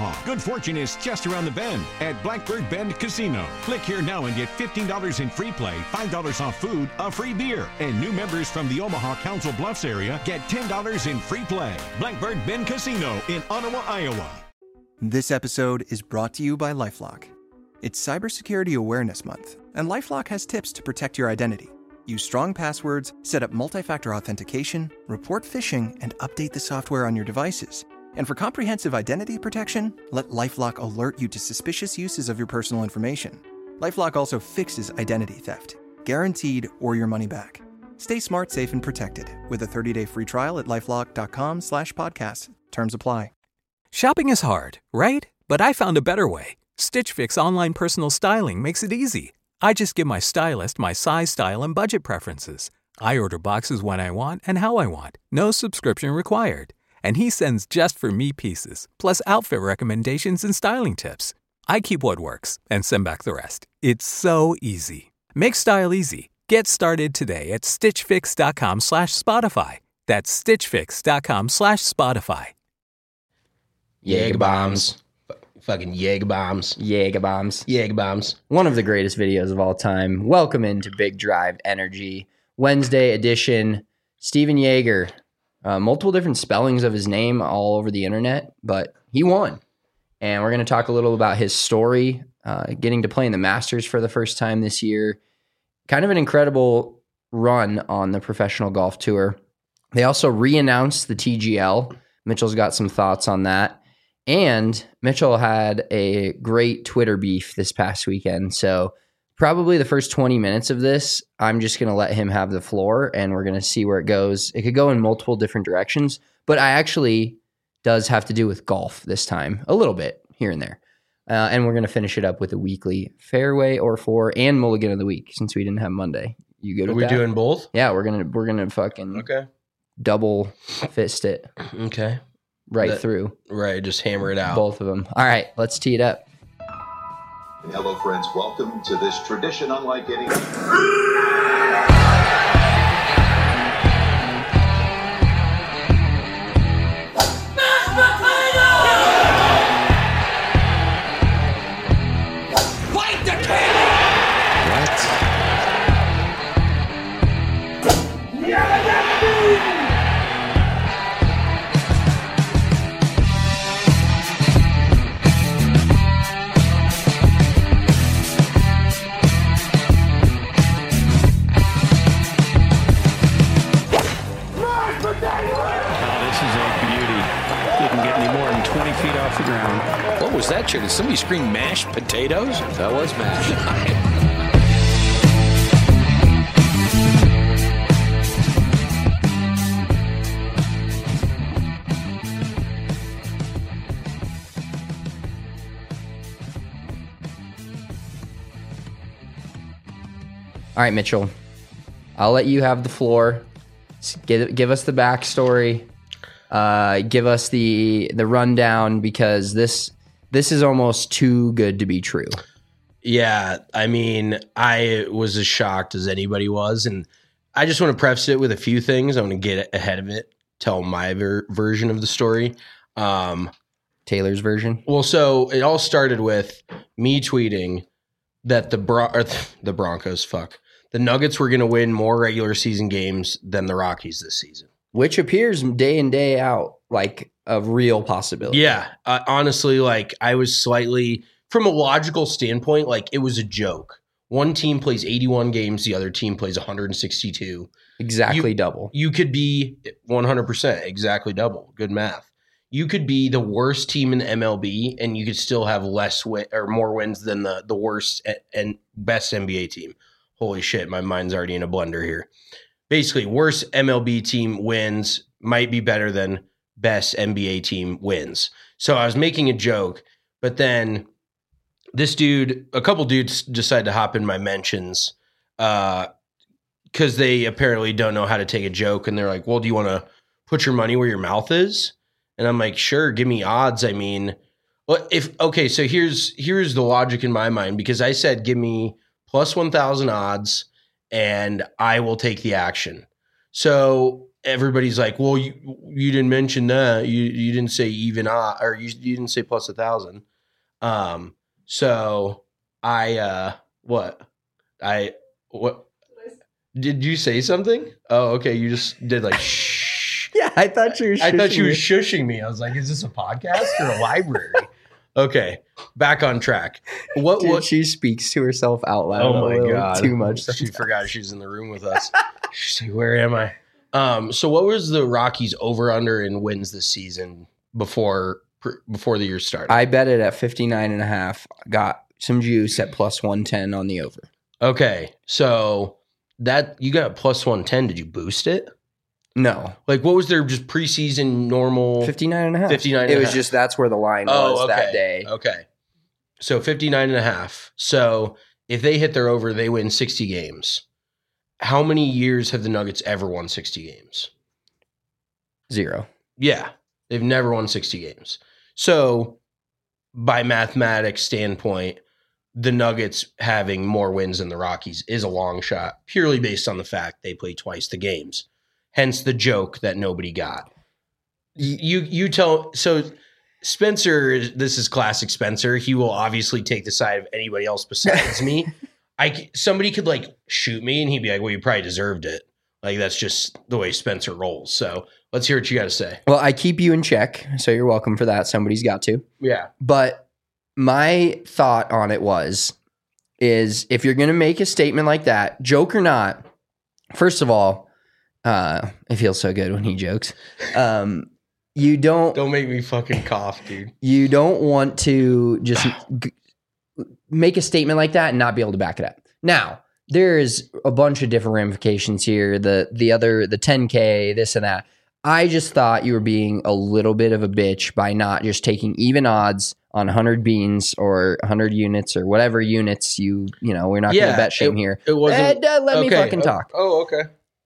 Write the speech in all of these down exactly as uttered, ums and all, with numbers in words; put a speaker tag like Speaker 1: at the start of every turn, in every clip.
Speaker 1: Omaha. Good fortune is just around the bend at Blackbird Bend Casino. Click here now and get fifteen dollars in free play, five dollars off food, a free beer. And new members from the Omaha Council Bluffs area get ten dollars in free play. Blackbird Bend Casino in Ottawa, Iowa.
Speaker 2: This episode is brought to you by LifeLock. It's Cybersecurity Awareness Month, and LifeLock has tips to protect your identity. Use strong passwords, set up multi-factor authentication, report phishing, and update the software on your devices. And for comprehensive identity protection, let LifeLock alert you to suspicious uses of your personal information. LifeLock also fixes identity theft, guaranteed or your money back. Stay smart, safe, and protected with a thirty-day free trial at LifeLock.com slash podcast. Terms apply.
Speaker 3: Shopping is hard, right? But I found a better way. Stitch Fix online personal styling makes it easy. I just give my stylist my size, style, and budget preferences. I order boxes when I want and how I want. No subscription required. And he sends just for me pieces, plus outfit recommendations and styling tips. I keep what works and send back the rest. It's so easy. Make style easy. Get started today at stitchfix.com slash Spotify. That's stitchfix.com slash Spotify.
Speaker 4: Jaeger bombs. Fucking Jaeger bombs.
Speaker 5: Jaeger bombs.
Speaker 4: Jaeger bombs.
Speaker 5: One of the greatest videos of all time. Welcome into Big Drive Energy. Wednesday edition. Steven Jaeger. Uh, multiple different spellings of his name all over the internet, but he won. And we're going to talk a little about his story, uh, getting to play in the Masters for the first time this year. Kind of an incredible run on the professional golf tour. They also re-announced the T G L. Mitchell's got some thoughts on that. And Mitchell had a great Twitter beef this past weekend. So probably the first twenty minutes of this, I'm just going to let him have the floor and we're going to see where it goes. It could go in multiple different directions, but I actually does have to do with golf this time, a little bit here and there. Uh, and we're going to finish it up with a weekly fairway or four and mulligan of the week since we didn't have Monday. You good
Speaker 4: Are
Speaker 5: with
Speaker 4: we
Speaker 5: that?
Speaker 4: doing both?
Speaker 5: Yeah, we're going to we're going to fucking
Speaker 4: Okay.
Speaker 5: double fist it
Speaker 4: Okay.
Speaker 5: right
Speaker 4: That-
Speaker 5: through.
Speaker 4: Right, just hammer it out.
Speaker 5: Both of them. All right, let's tee it up.
Speaker 6: Hello, friends. Welcome to this tradition unlike any.
Speaker 7: What was that, Chair? Did somebody scream mashed potatoes?
Speaker 8: That was mashed.
Speaker 5: All right, Mitchell. I'll let you have the floor. Give, give us the backstory. Uh, give us the the rundown because this this is almost too good to be true.
Speaker 4: Yeah, I mean, I was as shocked as anybody was, and I just want to preface it with a few things. I want to get ahead of it, tell my ver- version of the story. Um,
Speaker 5: Taylor's version.
Speaker 4: Well, so it all started with me tweeting that the Bron- or th- the Broncos, fuck, the Nuggets were going to win more regular season games than the Rockies this season.
Speaker 5: Which appears day in, day out like a real possibility.
Speaker 4: Yeah. Uh, honestly, like I was slightly, from a logical standpoint, like it was a joke. One team plays eighty-one games, the other team plays one hundred sixty-two.
Speaker 5: Exactly
Speaker 4: you,
Speaker 5: double.
Speaker 4: You could be one hundred percent exactly double. Good math. You could be the worst team in the M L B and you could still have less win or more wins than the, the worst and best N B A team. Holy shit, my mind's already in a blender here. Basically, worst M L B team wins might be better than best N B A team wins. So I was making a joke, but then this dude, a couple dudes decided to hop in my mentions uh, because they apparently don't know how to take a joke. And they're like, well, do you want to put your money where your mouth is? And I'm like, sure, give me odds. I mean, well, if okay, so here's here's the logic in my mind, because I said give me plus one thousand odds and I will take the action. So everybody's like, well, you you didn't mention that. You you didn't say even odd, or you you didn't say plus a thousand. Um, so I uh what I what did you say something? Oh, okay. You just did like shh.
Speaker 5: Yeah, I thought you were.
Speaker 4: I thought you were
Speaker 5: me.
Speaker 4: shushing me. I was like, is this a podcast or a library? Okay, back on track. What
Speaker 5: Dude,
Speaker 4: what
Speaker 5: she speaks to herself out loud.
Speaker 4: Oh
Speaker 5: a
Speaker 4: my
Speaker 5: little
Speaker 4: god,
Speaker 5: too much.
Speaker 4: She
Speaker 5: sometimes.
Speaker 4: forgot she's in the room with us. She's like, where am I? Um, so what was the Rockies over under in wins this season before before the year started?
Speaker 5: I bet it at fifty-nine and a half. Got some juice at plus one ten on the over.
Speaker 4: Okay, so that you got plus one ten. Did you boost it?
Speaker 5: No,
Speaker 4: Like, what was their just preseason normal?
Speaker 5: fifty-nine and a half.
Speaker 4: fifty-nine and
Speaker 5: It
Speaker 4: a
Speaker 5: was
Speaker 4: half.
Speaker 5: just that's where the line
Speaker 4: Oh,
Speaker 5: was
Speaker 4: okay.
Speaker 5: that day.
Speaker 4: Okay. So fifty-nine and a half. So if they hit their over, they win sixty games. How many years have the Nuggets ever won sixty games?
Speaker 5: Zero.
Speaker 4: Yeah. They've never won sixty games. So by mathematics standpoint, the Nuggets having more wins than the Rockies is a long shot, purely based on the fact they play twice the games. Hence the joke that nobody got. You you tell so Spencer, this is classic Spencer. He will obviously take the side of anybody else besides me. I somebody could like shoot me and he'd be like, "Well, you probably deserved it." Like that's just the way Spencer rolls. So let's hear what you got to say.
Speaker 5: Well, I keep you in check, so you're welcome for that. Somebody's got to.
Speaker 4: Yeah.
Speaker 5: But my thought on it was, is if you're going to make a statement like that, joke or not, first of all, uh, it feels so good when he jokes. Um, you don't,
Speaker 4: Don't make me fucking cough, dude.
Speaker 5: you don't want to just g- make a statement like that and not be able to back it up. Now, there's a bunch of different ramifications here. The the other, the ten K, this and that. I just thought you were being a little bit of a bitch by not just taking even odds on one hundred beans or one hundred units or whatever units you, you know, we're not going
Speaker 4: Yeah,
Speaker 5: to bet shame
Speaker 4: it-
Speaker 5: here.
Speaker 4: it wasn't-
Speaker 5: Eh, uh, let me
Speaker 4: Okay.
Speaker 5: fucking talk.
Speaker 4: Oh, okay.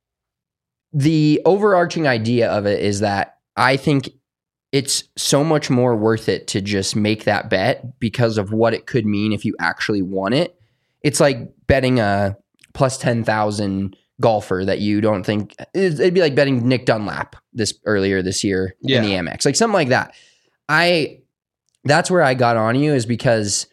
Speaker 5: The overarching idea of it is that I think it's so much more worth it to just make that bet because of what it could mean if you actually won it. It's like betting a plus ten thousand golfer that you don't think it'd be like betting Nick Dunlap this earlier this year
Speaker 4: Yeah.
Speaker 5: in the Amex, like something like that. I, that's where I got on you is because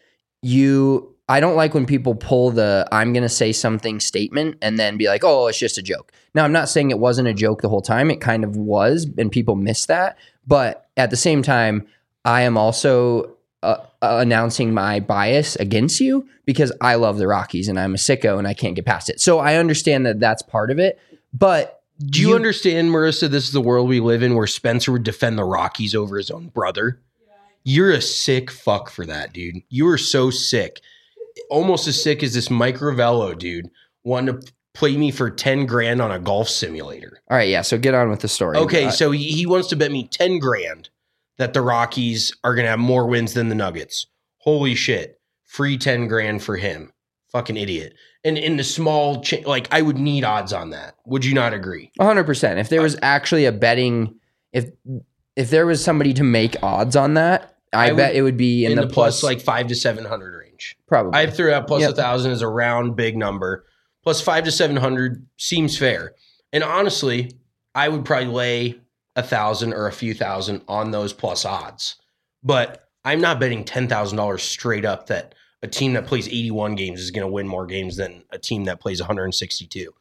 Speaker 5: you, I don't like when people pull the, I'm going to say something statement and then be like, oh, it's just a joke. Now, I'm not saying it wasn't a joke the whole time. It kind of was, and people miss that. But at the same time, I am also uh, uh, announcing my bias against you because I love the Rockies and I'm a sicko and I can't get past it. So I understand that that's part of it. But
Speaker 4: Do you, understand, Marissa, this is the world we live in where Spencer would defend the Rockies over his own brother? You're a sick fuck for that, dude. You are so sick. Almost as sick as this Mike Ravello, dude, wanting to play me for ten grand on a golf simulator.
Speaker 5: All right, yeah, so get on with the story.
Speaker 4: Okay,
Speaker 5: Uh,
Speaker 4: so he, he wants to bet me ten grand that the Rockies are going to have more wins than the Nuggets. Holy shit. Free ten grand for him. Fucking idiot. And in the small, cha- like, I would need odds on that. Would you not agree?
Speaker 5: one hundred percent. If there was actually a betting, if if there was somebody to make odds on that, I,
Speaker 4: I would-
Speaker 5: bet it would be in,
Speaker 4: In,
Speaker 5: the,
Speaker 4: the plus,
Speaker 5: plus,
Speaker 4: like five to seven hundred range.
Speaker 5: probably.
Speaker 4: I threw out plus
Speaker 5: Yep.
Speaker 4: a thousand as a round big number. Plus five to seven hundred seems fair. And honestly, I would probably lay a thousand or a few thousand on those plus odds. But I'm not betting ten thousand dollars straight up that a team that plays eighty-one games is going to win more games than a team that plays one hundred sixty-two.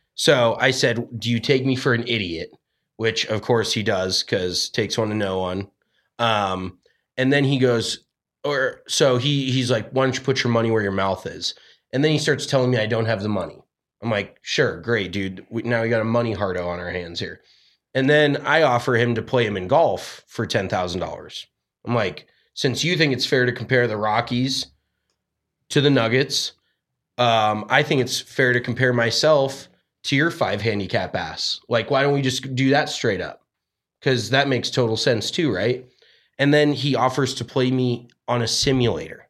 Speaker 4: So I said, do you take me for an idiot? Which of course he does, because takes one to know one. Um, and then he goes, or so he he's like, why don't you put your money where your mouth is? And then he starts telling me I don't have the money. I'm like, sure, great, dude. We, now we got a money hardo on our hands here. And then I offer him to play him in golf for ten thousand dollars. I'm like, since you think it's fair to compare the Rockies to the Nuggets, um, I think it's fair to compare myself to your five handicap ass. Like, why don't we just do that straight up? Because that makes total sense too, right? And then he offers to play me on a simulator.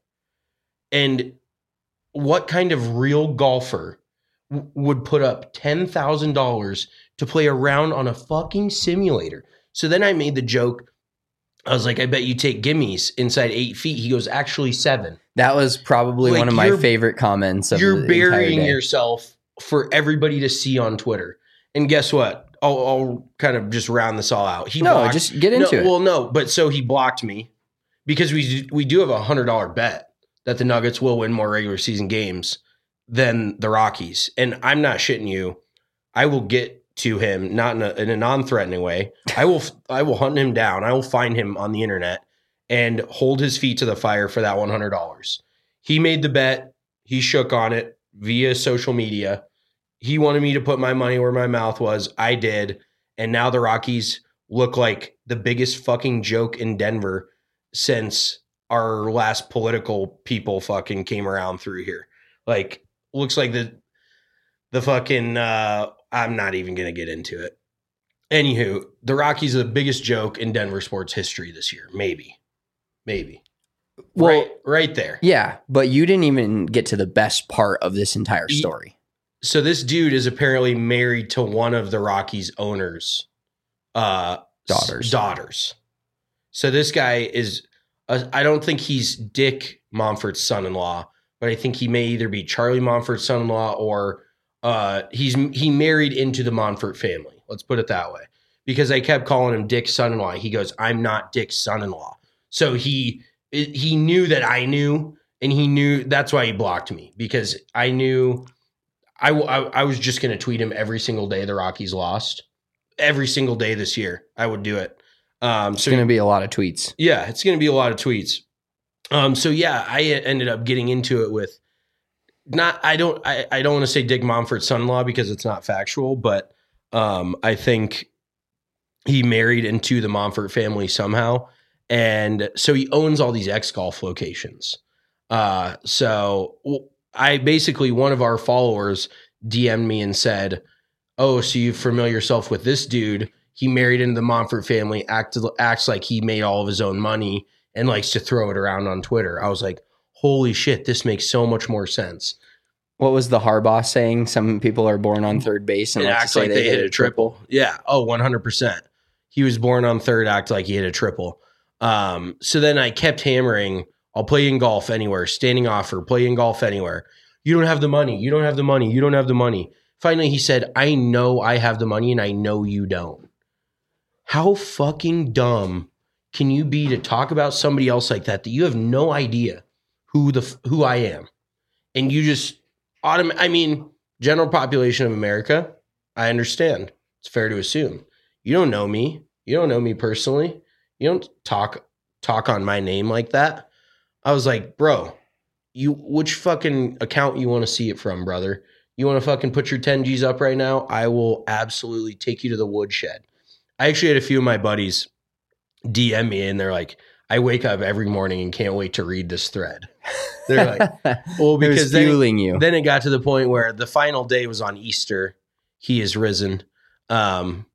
Speaker 4: And what kind of real golfer w- would put up ten thousand dollars to play a round on a fucking simulator? So then I made the joke. I was like, I bet you take gimmies inside eight feet. He goes, actually seven.
Speaker 5: that was probably
Speaker 4: Like,
Speaker 5: one of my
Speaker 4: you're-
Speaker 5: favorite comments of
Speaker 4: You're
Speaker 5: the entire
Speaker 4: burying
Speaker 5: day.
Speaker 4: yourself for everybody to see on Twitter. And guess what? I'll, I'll kind of just round this all out. He
Speaker 5: No,
Speaker 4: blocked,
Speaker 5: just get into
Speaker 4: no,
Speaker 5: it.
Speaker 4: Well, no, but so he blocked me because we we do have a hundred dollar bet that the Nuggets will win more regular season games than the Rockies, and I'm not shitting you. I will get to him, not in a, in a non-threatening way. I will I will hunt him down. I will find him on the internet and hold his feet to the fire for that one hundred dollars. He made the bet. He shook on it via social media. He wanted me to put my money where my mouth was. I did. And now the Rockies look like the biggest fucking joke in Denver since our last political people fucking came around through here. Like, looks like the the fucking uh I'm not even gonna get into it. Anywho, the Rockies are the biggest joke in Denver sports history this year. Maybe. Maybe.
Speaker 5: Well,
Speaker 4: right, right there.
Speaker 5: Yeah, but you didn't even get to the best part of this entire story.
Speaker 4: So this dude is apparently married to one of the Rockies owners' uh,
Speaker 5: daughters.
Speaker 4: Daughters. So this guy is, uh, I don't think he's Dick Monfort's son-in-law, but I think he may either be Charlie Monfort's son-in-law or uh, he's he married into the Monfort family. Let's put it that way. Because I kept calling him Dick's son-in-law. He goes, I'm not Dick's son-in-law. So he he knew that I knew, and he knew that's why he blocked me, because I knew I, I, I was just going to tweet him every single day the Rockies lost. Every single day this year, I would do it. Um,
Speaker 5: It's
Speaker 4: so
Speaker 5: going to be a lot of tweets.
Speaker 4: Yeah, it's going to be a lot of tweets. Um, so yeah, I ended up getting into it with not. I don't. I, I don't want to say Dick Monfort's son-in-law because it's not factual, but um, I think he married into the Monfort family somehow, and so he owns all these X Golf locations. Uh, so I basically one of our followers D M'd me and said, "Oh, so you familiar yourself with this dude? He married into the Monfort family, act, acts like he made all of his own money and likes to throw it around on Twitter." I was like, holy shit, this makes so much more sense.
Speaker 5: What was the Harbaugh saying? Some people are born on third base and
Speaker 4: It
Speaker 5: like
Speaker 4: acts like they, they hit a triple. triple. Yeah. Oh, one hundred percent. He was born on third, act like he hit a triple. Um, so then I kept hammering, I'll play in golf anywhere, standing offer, play in golf anywhere. You don't have the money. You don't have the money. You don't have the money. Finally, he said, I know I have the money and I know you don't. How fucking dumb can you be to talk about somebody else like that, that you have no idea who the who I am? And you just autom- I mean, general population of America, I understand. It's fair to assume. You don't know me. You don't know me personally. You don't talk talk on my name like that. I was like, bro, you which fucking account you want to see it from, brother? You want to fucking put your ten G's up right now? I will absolutely take you to the woodshed. I actually had a few of my buddies D M me and they're like, I wake up every morning and can't wait to read this thread. They're like, well, because then
Speaker 5: fueling
Speaker 4: it,
Speaker 5: you.
Speaker 4: then it got to the point where the final day was on Easter. He is risen. Um,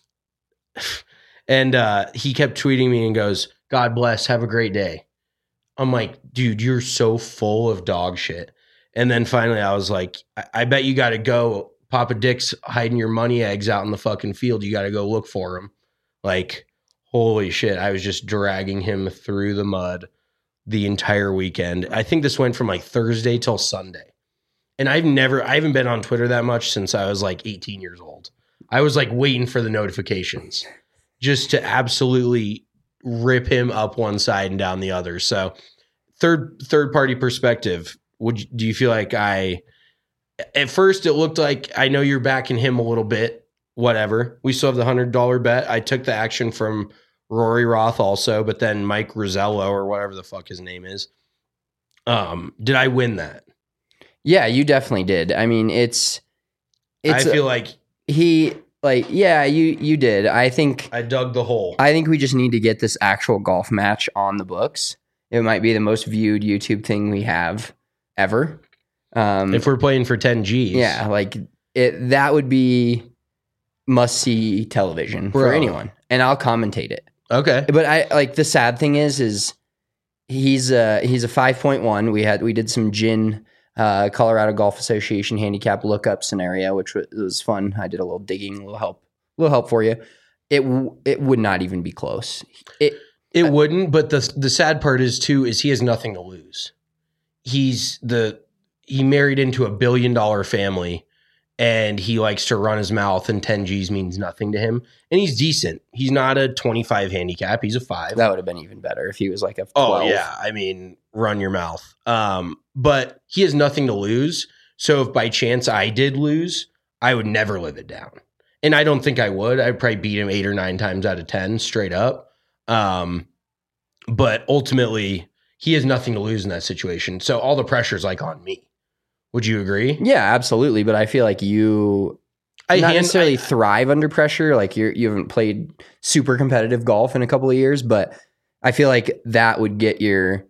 Speaker 4: and uh, he kept tweeting me and goes, God bless, have a great day. I'm like, dude, you're so full of dog shit. And then finally I was like, I, I bet you got to go. Papa Dick's hiding your money eggs out in the fucking field. You got to go look for him. Like, holy shit. I was just dragging him through the mud the entire weekend. I think this went from like Thursday till Sunday. And I've never, I haven't been on Twitter that much since I was like eighteen years old. I was like waiting for the notifications just to absolutely rip him up one side and down the other. So third, third party perspective, would you, do you feel like I, at first it looked like I know you're backing him a little bit, whatever. We still have the one hundred dollars bet. I took the action from Rory Roth also, but then Mike Rosello or whatever the fuck his name is. Um, did I win that?
Speaker 5: Yeah, you definitely did. I mean, it's, it's
Speaker 4: I feel like
Speaker 5: he like, yeah, you, you did. I think
Speaker 4: I dug the hole.
Speaker 5: I think we just need to get this actual golf match on the books. It might be the most viewed YouTube thing we have ever. Um,
Speaker 4: if we're playing for ten G's.
Speaker 5: Yeah, like it, that would be must see television
Speaker 4: Bro.
Speaker 5: for anyone. And I'll commentate it.
Speaker 4: Okay.
Speaker 5: But I like the sad thing is, is he's a, he's a five point one. We had, we did some gin, uh, Colorado Golf Association handicap lookup scenario, which was, was fun. I did a little digging, a little help, a little help for you. It, w- it would not even be close. It,
Speaker 4: It uh, wouldn't, but the the sad part is too is he has nothing to lose. He's the he married into a billion dollar family, and he likes to run his mouth, and ten G's means nothing to him. And he's decent. He's not a twenty-five handicap. He's a five.
Speaker 5: That would have been even better if he was like a twelve.
Speaker 4: Oh, yeah. I mean, run your mouth. Um, but he has nothing to lose. So if by chance I did lose, I would never live it down. And I don't think I would. I'd probably beat him eight or nine times out of ten straight up. Um, but ultimately, he has nothing to lose in that situation. So all the pressure is like on me. Would you agree?
Speaker 5: Yeah, absolutely. But I feel like you
Speaker 4: I
Speaker 5: not
Speaker 4: hand,
Speaker 5: necessarily
Speaker 4: I,
Speaker 5: thrive under pressure. Like you're, you haven't played super competitive golf in a couple of years, but I feel like that would get your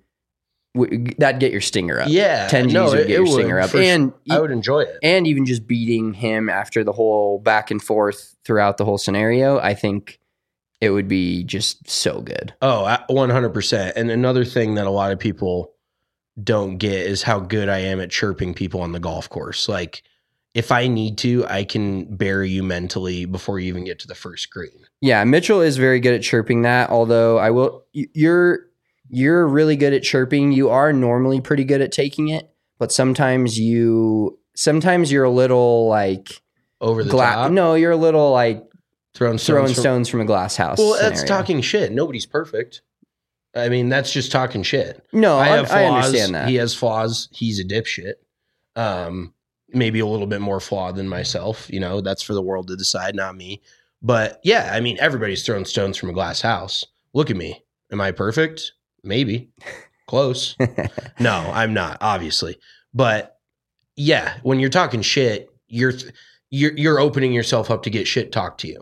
Speaker 5: that'd get your stinger up.
Speaker 4: Yeah,
Speaker 5: ten G's
Speaker 4: no,
Speaker 5: would
Speaker 4: it,
Speaker 5: get your
Speaker 4: it
Speaker 5: stinger
Speaker 4: would,
Speaker 5: up, and
Speaker 4: sure. I would enjoy it.
Speaker 5: And even just beating him after the whole back and forth throughout the whole scenario, I think it would be just so good.
Speaker 4: Oh, one hundred percent. And another thing that a lot of people don't get is how good I am at chirping people on the golf course. Like, if I need to, I can bury you mentally before you even get to the first green.
Speaker 5: Yeah, Mitchell is very good at chirping that, although I will you're you're really good at chirping. You are normally pretty good at taking it, but sometimes you sometimes you're a little like
Speaker 4: over the
Speaker 5: gla-
Speaker 4: top.
Speaker 5: No, you're a little like
Speaker 4: throwing stones,
Speaker 5: throwing
Speaker 4: from,
Speaker 5: stones from a glass house.
Speaker 4: Well,
Speaker 5: scenario.
Speaker 4: that's talking shit. Nobody's perfect. I mean, that's just talking shit.
Speaker 5: No,
Speaker 4: I
Speaker 5: I,
Speaker 4: have flaws.
Speaker 5: I understand that.
Speaker 4: He has flaws. He's a dipshit. Um, maybe a little bit more flawed than myself. You know, that's for the world to decide, not me. But yeah, I mean, everybody's throwing stones from a glass house. Look at me. Am I perfect? Maybe. Close. No, I'm not, obviously. But yeah, when you're talking shit, you're you're you're opening yourself up to get shit talked to you.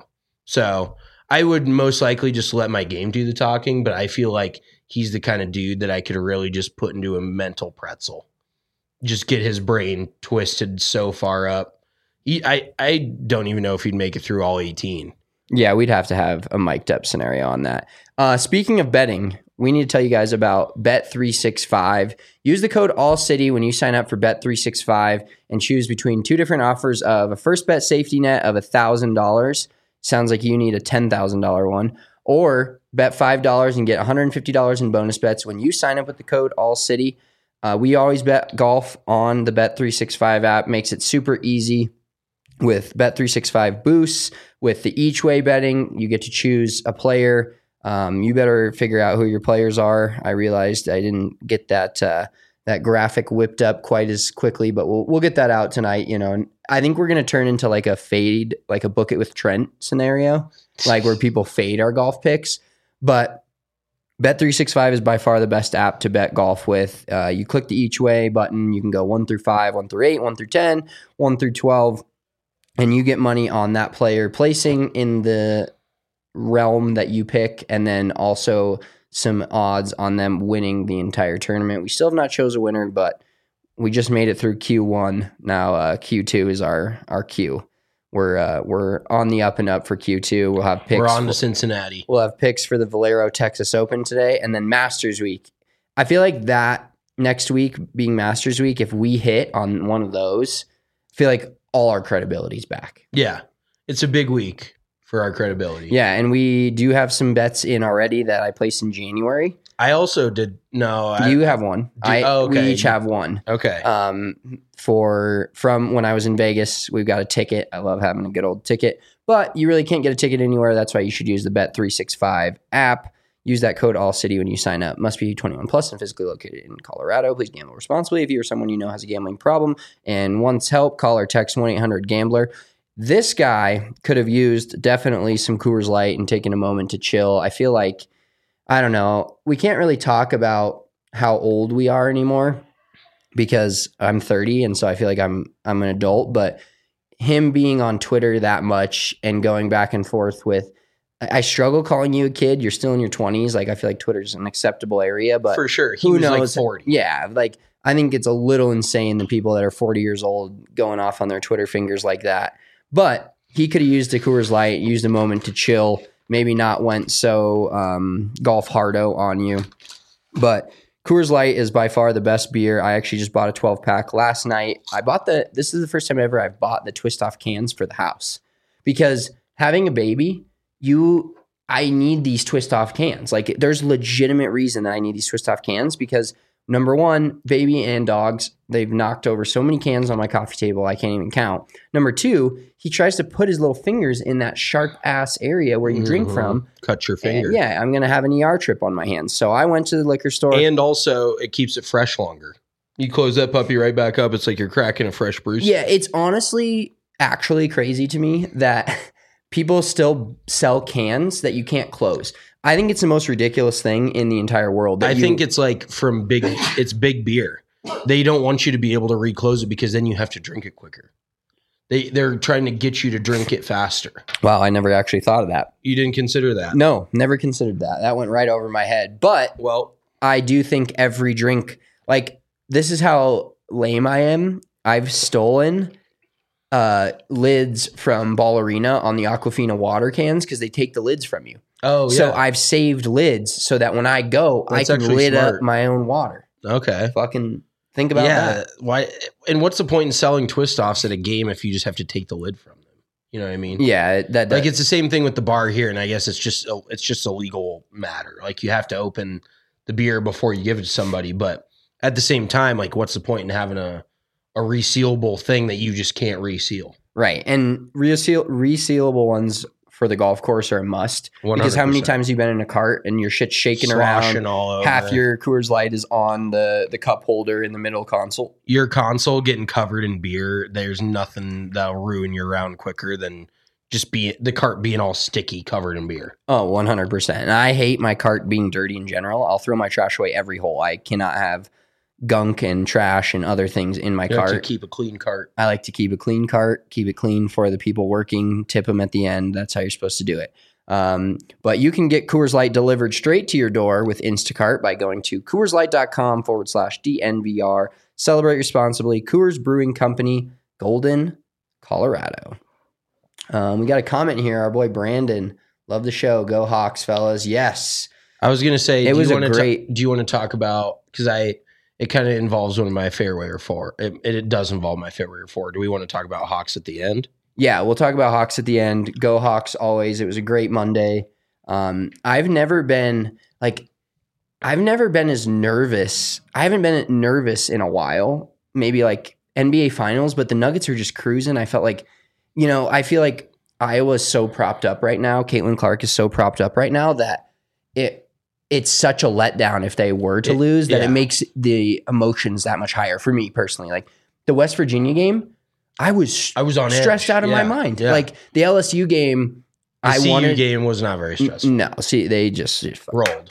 Speaker 4: So I would most likely just let my game do the talking, but I feel like he's the kind of dude that I could really just put into a mental pretzel. Just get his brain twisted so far up. He, I, I don't even know if he'd make it through all eighteen.
Speaker 5: Yeah, we'd have to have a mic'd up scenario on that. Uh, speaking of betting, we need to tell you guys about Bet three sixty-five. Use the code ALLCITY when you sign up for Bet three sixty-five and choose between two different offers of a first bet safety net of one thousand dollars. Sounds like you need a ten thousand dollars one. Or bet five dollars and get one hundred fifty dollars in bonus bets when you sign up with the code ALLCITY. Uh, we always bet golf on the Bet three sixty-five app. Makes it super easy with Bet three sixty-five boosts. With the each way betting, you get to choose a player. Um, you better figure out who your players are. I realized I didn't get that uh, that graphic whipped up quite as quickly, but we'll we'll get that out tonight. You know, and I think we're gonna turn into like a fade, like a book it with Trent scenario, like where people fade our golf picks. But Bet three sixty-five is by far the best app to bet golf with. Uh, you click the each way button. You can go one through five, one through eight, one through ten, one through twelve, and you get money on that player placing in the realm that you pick, and then also some odds on them winning the entire tournament. We still have not chose a winner, but we just made it through Q one. Now uh, Q two is our our Q. We're uh, we're on the up and up for Q two. We'll have picks.
Speaker 4: We're on
Speaker 5: for,
Speaker 4: to Cincinnati.
Speaker 5: We'll have picks for the Valero Texas Open today, and then Masters Week. I feel like that next week being Masters Week, if we hit on one of those, I feel like all our credibility's back.
Speaker 4: Yeah, it's a big week for our credibility.
Speaker 5: Yeah, and we do have some bets in already that I placed in January.
Speaker 4: I also did. No, I,
Speaker 5: you have one.
Speaker 4: Do,
Speaker 5: I
Speaker 4: oh, okay.
Speaker 5: We each have one.
Speaker 4: Okay.
Speaker 5: Um, for from when I was in Vegas, we've got a ticket. I love having a good old ticket, but you really can't get a ticket anywhere. That's why you should use the Bet three sixty-five app. Use that code ALLCITY when you sign up. Must be twenty-one plus and physically located in Colorado. Please gamble responsibly. If you or someone you know has a gambling problem and wants help, call or text one eight hundred gambler. This guy could have used definitely some Coors Light and taken a moment to chill. I feel like, I don't know, we can't really talk about how old we are anymore because I'm thirty, and so I feel like I'm I'm an adult, but him being on Twitter that much and going back and forth with, I struggle calling you a kid. You're still in your twenties. Like, I feel like Twitter's an acceptable area, but
Speaker 4: for sure, he
Speaker 5: who
Speaker 4: was
Speaker 5: knows?
Speaker 4: like forty.
Speaker 5: Yeah, like I think it's a little insane the people that are forty years old going off on their Twitter fingers like that. But he could have used a Coors Light, used a moment to chill, maybe not went so um, golf hardo on you. But Coors Light is by far the best beer. I actually just bought a twelve pack last night. I bought the, this is the first time ever I've bought the twist off cans for the house because having a baby, you, I need these twist off cans. Like there's legitimate reason that I need these twist off cans because Number one, baby and dogs. They've knocked over so many cans on my coffee table, I can't even count. Number two, he tries to put his little fingers in that sharp ass area where you mm-hmm. drink from.
Speaker 4: Cut your finger.
Speaker 5: And yeah, I'm going to have an E R trip on my hands. So I went to the liquor store.
Speaker 4: And also, it keeps it fresh longer. You close that puppy right back up. It's like you're cracking a fresh bruise.
Speaker 5: Yeah, it's honestly actually crazy to me that people still sell cans that you can't close. I think it's the most ridiculous thing in the entire world.
Speaker 4: I
Speaker 5: you,
Speaker 4: think it's like from big, it's big beer. They don't want you to be able to reclose it because then you have to drink it quicker. They, they're trying to get you to drink it faster.
Speaker 5: Wow, I never actually thought of that.
Speaker 4: You didn't consider that?
Speaker 5: No, never considered that. That went right over my head. But
Speaker 4: well,
Speaker 5: I do think every drink, like this is how lame I am. I've stolen uh, lids from Ballerina on the Aquafina water cans because they take the lids from you.
Speaker 4: Oh, yeah.
Speaker 5: So I've saved lids so that when I go, That's I can lid smart. up my own water.
Speaker 4: Okay.
Speaker 5: Fucking think about
Speaker 4: yeah,
Speaker 5: that.
Speaker 4: Why? And what's the point in selling twist offs at a game if you just have to take the lid from them? You know what I mean?
Speaker 5: Yeah, that, that
Speaker 4: like it's the same thing with the bar here, and I guess it's just a, it's just a legal matter. Like you have to open the beer before you give it to somebody, but at the same time, like what's the point in having a a resealable thing that you just can't reseal?
Speaker 5: Right, and reseal resealable ones for the golf course are a must.
Speaker 4: one hundred percent.
Speaker 5: Because how many times you've been in a cart and your shit's shaking
Speaker 4: Sloshing
Speaker 5: around,
Speaker 4: all over.
Speaker 5: half your Coors Light is on the, the cup holder in the middle console.
Speaker 4: Your console getting covered in beer, there's nothing that'll ruin your round quicker than just be the cart being all sticky, covered in beer.
Speaker 5: Oh, one hundred percent. And I hate my cart being dirty in general. I'll throw my trash away every hole. I cannot have gunk and trash and other things in my
Speaker 4: you
Speaker 5: cart.
Speaker 4: Like to keep a clean cart.
Speaker 5: I like to keep a clean cart, keep it clean for the people working, tip them at the end. That's how you're supposed to do it. Um, but you can get Coors Light delivered straight to your door with Instacart by going to CoorsLight.com forward slash DNVR. Celebrate responsibly. Coors Brewing Company, Golden, Colorado. Um, we got a comment here. Our boy Brandon, love the show. Go Hawks, fellas. Yes.
Speaker 4: I was going to say,
Speaker 5: it
Speaker 4: do
Speaker 5: was
Speaker 4: you
Speaker 5: a
Speaker 4: want
Speaker 5: great.
Speaker 4: To, do you want to talk about, because I, it kind of involves one of my fairway or four. It, it, it does involve my fairway or four. Do we want to talk about Hawks at the end?
Speaker 5: Yeah, we'll talk about Hawks at the end. Go Hawks always. It was a great Monday. Um, I've never been like, I've never been as nervous. I haven't been nervous in a while. Maybe like N B A Finals, but the Nuggets are just cruising. I felt like, you know, I feel like Iowa's so propped up right now. Caitlin Clark is so propped up right now that it it's such a letdown if they were to
Speaker 4: it,
Speaker 5: lose that
Speaker 4: yeah.
Speaker 5: it makes the emotions that much higher for me personally. Like the West Virginia game, I was
Speaker 4: I was on
Speaker 5: stressed
Speaker 4: edge.
Speaker 5: out of
Speaker 4: yeah.
Speaker 5: my mind.
Speaker 4: Yeah.
Speaker 5: Like the L S U game,
Speaker 4: the
Speaker 5: I
Speaker 4: C U
Speaker 5: wanted
Speaker 4: game was not very stressful.
Speaker 5: No, see, they just
Speaker 4: rolled.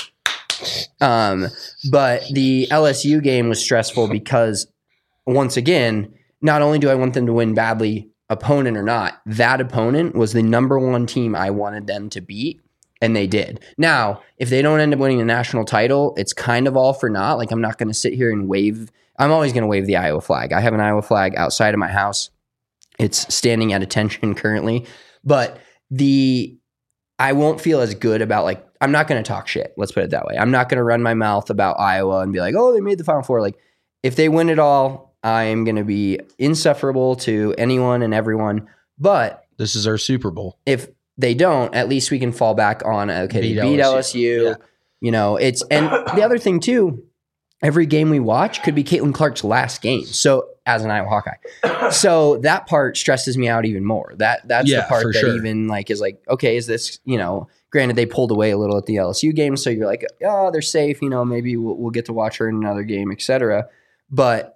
Speaker 5: Um, but the L S U game was stressful because once again, not only do I want them to win badly, opponent or not, that opponent was the number one team I wanted them to beat. And they did. Now, if they don't end up winning a national title, it's kind of all for naught. Like, I'm not going to sit here and wave. I'm always going to wave the Iowa flag. I have an Iowa flag outside of my house. It's standing at attention currently. But the I won't feel as good about, like, I'm not going to talk shit. Let's put it that way. I'm not going to run my mouth about Iowa and be like, oh, they made the Final Four. Like, if they win it all, I am going to be insufferable to anyone and everyone. But
Speaker 4: this is our Super Bowl.
Speaker 5: If they don't, at least we can fall back on, okay, beat they beat L S U. L S U. Yeah. You know, it's, and the other thing too, every game we watch could be Caitlin Clark's last game. So as an Iowa Hawkeye. So that part stresses me out even more. That That's
Speaker 4: yeah,
Speaker 5: the part that
Speaker 4: sure.
Speaker 5: even like is like, okay, is this, you know, granted they pulled away a little at the L S U game. So you're like, oh, they're safe. You know, maybe we'll, we'll get to watch her in another game, et cetera. But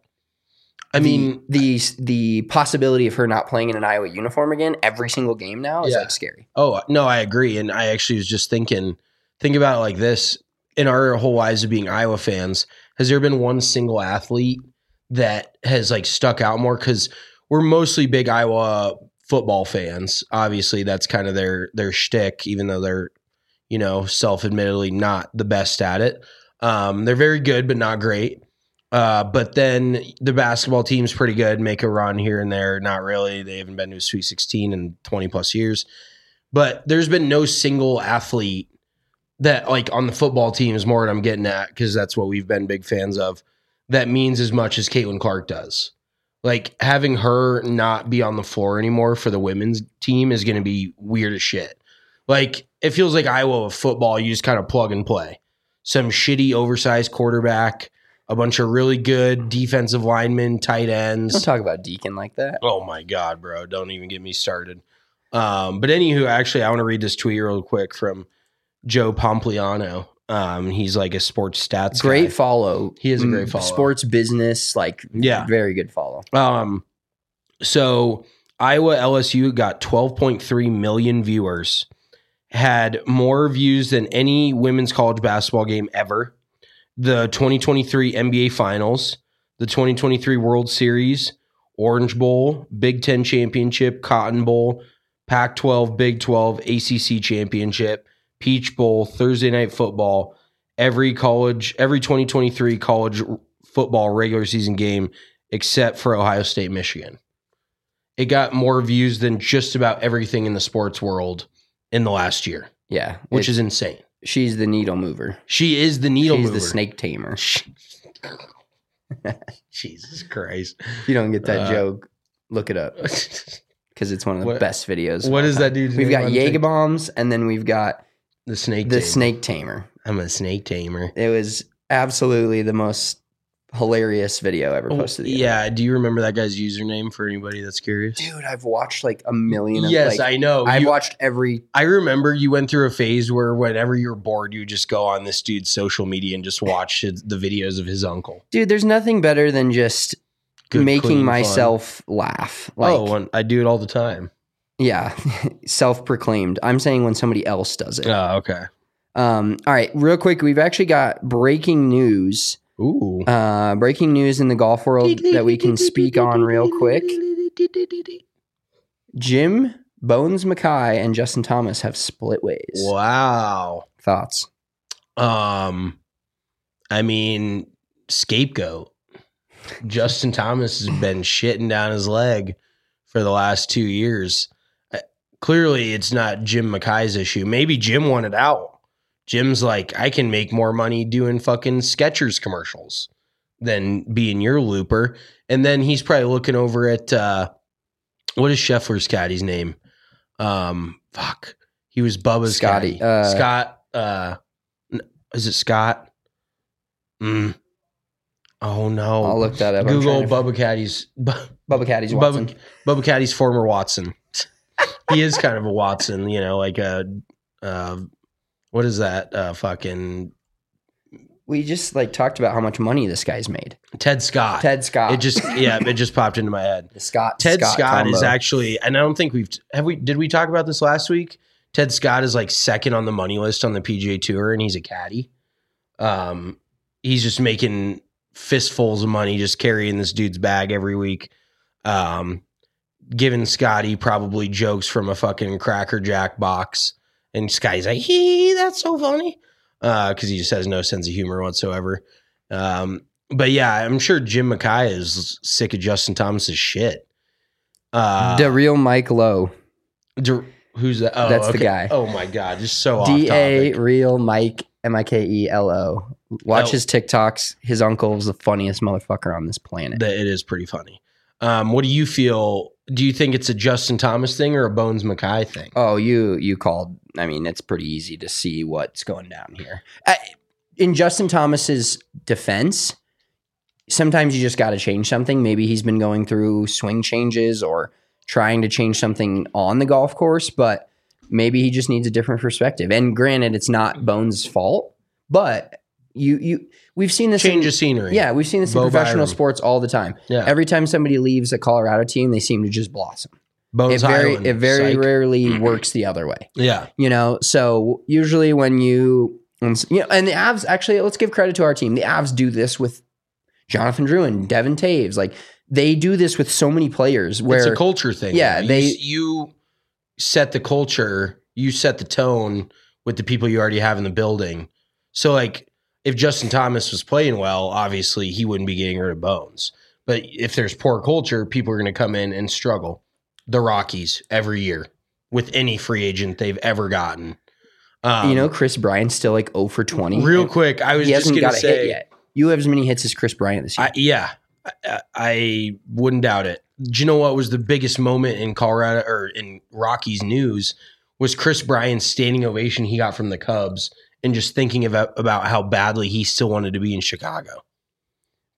Speaker 4: I mean,
Speaker 5: the, the the possibility of her not playing in an Iowa uniform again every single game now is
Speaker 4: yeah.
Speaker 5: like scary.
Speaker 4: Oh, no, I agree. And I actually was just thinking, think about it like this. In our whole lives of being Iowa fans, has there been one single athlete that has like stuck out more? Because we're mostly big Iowa football fans. Obviously, that's kind of their their shtick, even though they're, you know, self-admittedly not the best at it. Um, they're very good, but not great. Uh, but then the basketball team's pretty good, make a run here and there. Not really. They haven't been to a Sweet sixteen in twenty plus years. But there's been no single athlete that, like, on the football team is more what I'm getting at, because that's what we've been big fans of, that means as much as Caitlin Clark does. Like, having her not be on the floor anymore for the women's team is going to be weird as shit. Like, it feels like Iowa with football, you just kind of plug and play. Some shitty, oversized quarterback. a bunch of really good defensive linemen, tight ends.
Speaker 5: Don't talk about Deacon like that.
Speaker 4: Oh my God, bro. Don't even get me started. Um, but anywho, actually, I want to read this tweet real quick from Joe Pompliano. Um, he's like a sports stats
Speaker 5: Great
Speaker 4: guy.
Speaker 5: follow.
Speaker 4: He is a great follow.
Speaker 5: Sports business, like
Speaker 4: Yeah.
Speaker 5: very good follow.
Speaker 4: Um, so Iowa L S U got twelve point three million viewers, had more views than any women's college basketball game ever. The twenty twenty-three N B A Finals, the twenty twenty-three World Series, Orange Bowl, Big Ten Championship, Cotton Bowl, Pac twelve, Big twelve, A C C Championship, Peach Bowl, Thursday Night Football, every college, every twenty twenty-three college football regular season game except for Ohio State, Michigan. It got more views than just about everything in the sports world in the last year,
Speaker 5: Yeah.
Speaker 4: which
Speaker 5: it's-
Speaker 4: is insane.
Speaker 5: She's the needle mover.
Speaker 4: She is the needle
Speaker 5: She's
Speaker 4: mover.
Speaker 5: the snake tamer.
Speaker 4: Jesus Christ.
Speaker 5: If you don't get that
Speaker 4: Uh,
Speaker 5: joke, look it up because it's one of the
Speaker 4: What-
Speaker 5: best videos. of
Speaker 4: what
Speaker 5: all
Speaker 4: is
Speaker 5: time.
Speaker 4: that dude's
Speaker 5: We've
Speaker 4: name
Speaker 5: got
Speaker 4: on
Speaker 5: Jaeger
Speaker 4: TikTok?
Speaker 5: bombs, and then we've got
Speaker 4: The snake
Speaker 5: the
Speaker 4: tamer.
Speaker 5: snake tamer.
Speaker 4: I'm a snake tamer.
Speaker 5: It was absolutely the most hilarious video ever posted. to the internet.
Speaker 4: Yeah. Do you remember that guy's username for anybody that's curious?
Speaker 5: Dude, I've watched like a million. Of,
Speaker 4: Yes,
Speaker 5: like,
Speaker 4: I know.
Speaker 5: I've
Speaker 4: You-
Speaker 5: watched every.
Speaker 4: I remember you went through a phase where whenever you were bored, you would just go on this dude's social media and just watch his, the videos of his uncle.
Speaker 5: Dude, there's nothing better than just
Speaker 4: Good,
Speaker 5: making
Speaker 4: clean fun.
Speaker 5: myself laugh. Like,
Speaker 4: oh, and I do it all the time.
Speaker 5: yeah, self-proclaimed. I'm saying when somebody else does it.
Speaker 4: Oh, okay.
Speaker 5: Um, all right, real quick, we've actually got breaking news.
Speaker 4: Ooh.
Speaker 5: Uh, breaking news in the golf world that we can speak on real quick. Jim Bones Mackay and Justin Thomas have split ways.
Speaker 4: Wow.
Speaker 5: Thoughts?
Speaker 4: Um, I mean, scapegoat. Justin Thomas has been shitting down his leg for the last two years. Uh, Clearly, it's not Jim Mackay's issue. Maybe Jim wanted out. Jim's like, I can make more money doing fucking Skechers commercials than being your looper. And then he's probably looking over at uh, what is Scheffler's caddy's name? Um, fuck, he was Bubba's
Speaker 5: Scotty,
Speaker 4: caddy.
Speaker 5: uh,
Speaker 4: Scott. Uh, n- is it Scott? Mm. Oh no!
Speaker 5: I'll look that up. I'm
Speaker 4: Google
Speaker 5: trying to-
Speaker 4: Bubba Caddy's Bu-
Speaker 5: Bubba Caddy's Watson.
Speaker 4: Bubba, Bubba Caddy's former Watson. He is kind of a Watson, you know, like a uh, what is that? Uh, fucking
Speaker 5: We just like talked about how much money this guy's made.
Speaker 4: Ted Scott.
Speaker 5: Ted Scott.
Speaker 4: It just yeah, it just popped into my head.
Speaker 5: The Scott.
Speaker 4: Ted
Speaker 5: Scott,
Speaker 4: Scott, is
Speaker 5: combo.
Speaker 4: actually, and I don't think we've have we did we talk about this last week? Ted Scott is like second on the money list on the P G A Tour, and he's a caddy. Um, he's just making fistfuls of money, just carrying this dude's bag every week. Um, giving Scotty probably jokes from a fucking Cracker Jack box, and Scotty's like, "Hee, that's so funny," because he just has no sense of humor whatsoever. Um, but yeah, I'm sure Jim Mackay is sick of Justin Thomas's shit. Uh,
Speaker 5: the real Mike Lowe.
Speaker 4: D- who's that? Oh,
Speaker 5: That's the
Speaker 4: okay.
Speaker 5: guy.
Speaker 4: Oh my god, just so off
Speaker 5: D A
Speaker 4: topic.
Speaker 5: real Mike M I K E L O. Watch
Speaker 4: Oh.
Speaker 5: his TikToks. His uncle is the funniest motherfucker on this planet.
Speaker 4: That it is pretty funny. Um, what do you feel? Do you think it's a Justin Thomas thing or a Bones Mackay thing?
Speaker 5: Oh, you you called. I mean, it's pretty easy to see what's going down here. Uh, in Justin Thomas's defense, sometimes you just got to change something. Maybe he's been going through swing changes or trying to change something on the golf course, but maybe he just needs a different perspective. And granted, it's not Bones' fault, but you you we've seen this
Speaker 4: Change
Speaker 5: in,
Speaker 4: of scenery.
Speaker 5: Yeah, we've seen this in
Speaker 4: Bo
Speaker 5: professional
Speaker 4: Byram.
Speaker 5: sports all the time.
Speaker 4: Yeah.
Speaker 5: Every time somebody leaves a Colorado team, they seem to just blossom.
Speaker 4: Bones
Speaker 5: It very
Speaker 4: Highland,
Speaker 5: it very
Speaker 4: psych.
Speaker 5: rarely works the other way.
Speaker 4: Yeah.
Speaker 5: You know, so usually when you, and, you know, and the Avs actually, let's give credit to our team. The Avs do this with Jonathan Drew and Devin Taves. Like they do this with so many players where
Speaker 4: It's a culture thing.
Speaker 5: Yeah,
Speaker 4: You-
Speaker 5: they-
Speaker 4: you set the culture, you set the tone with the people you already have in the building. So like if Justin Thomas was playing well, obviously he wouldn't be getting rid of Bones. But if there's poor culture, people are going to come in and struggle. The Rockies every year with any free agent they've ever gotten. Um,
Speaker 5: you know, Chris Bryant's still like zero for twenty.
Speaker 4: real
Speaker 5: And
Speaker 4: quick, I was
Speaker 5: he
Speaker 4: just
Speaker 5: hasn't
Speaker 4: going
Speaker 5: got
Speaker 4: to
Speaker 5: a hit
Speaker 4: say,
Speaker 5: yet. You have as many hits as Chris Bryant this year.
Speaker 4: I, yeah, I, I wouldn't doubt it. Do you know what was the biggest moment in Colorado or in Rockies news was Chris Bryant's standing ovation he got from the Cubs and just thinking about, about how badly he still wanted to be in Chicago.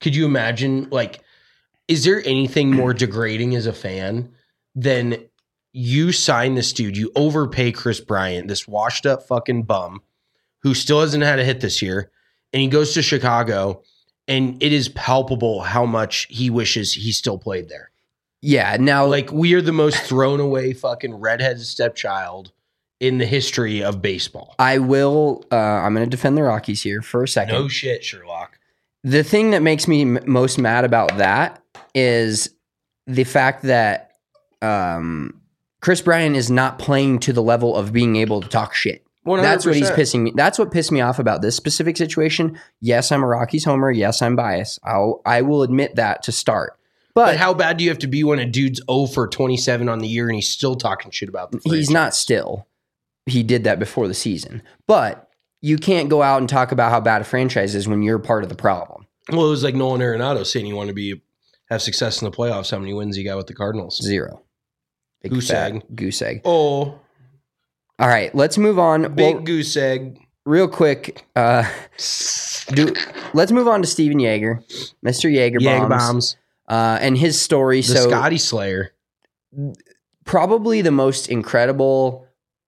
Speaker 4: Could you imagine, like, is there anything more degrading as a fan than you sign this dude, you overpay Chris Bryant, this washed up fucking bum who still hasn't had a hit this year, and he goes to Chicago, and it is palpable how much he wishes he still played there.
Speaker 5: Yeah, now
Speaker 4: Like, we are the most thrown away fucking redheaded stepchild in the history of baseball.
Speaker 5: I will, uh, I'm going to defend the Rockies here for a second.
Speaker 4: No shit, Sherlock.
Speaker 5: The thing that makes me m- most mad about that is the fact that um, Chris Bryant is not playing to the level of being able to talk shit.
Speaker 4: one hundred percent.
Speaker 5: That's what he's pissing me. That's what pissed me off about this specific situation. Yes, I'm a Rockies homer. Yes, I'm biased. I'll, I will admit that to start. But,
Speaker 4: But how bad do you have to be when a dude's oh for twenty-seven on the year and he's still talking shit about the franchise?
Speaker 5: he's not still. He did that before the season. But you can't go out and talk about how bad a franchise is when you're part of the problem.
Speaker 4: Well, it was like Nolan Arenado saying he wanted to be have success in the playoffs. How many wins he got with the Cardinals?
Speaker 5: Zero. Big
Speaker 4: Goose
Speaker 5: fat
Speaker 4: egg.
Speaker 5: Goose egg.
Speaker 4: Oh,
Speaker 5: All right, let's move on.
Speaker 4: big
Speaker 5: Well,
Speaker 4: goose egg.
Speaker 5: real quick, uh, do let's move on to Steven Yeager, Mister Yeager
Speaker 4: Yag
Speaker 5: bombs,
Speaker 4: bombs.
Speaker 5: uh, and his story.
Speaker 4: The
Speaker 5: so
Speaker 4: Scotty Slayer.
Speaker 5: probably the most incredible,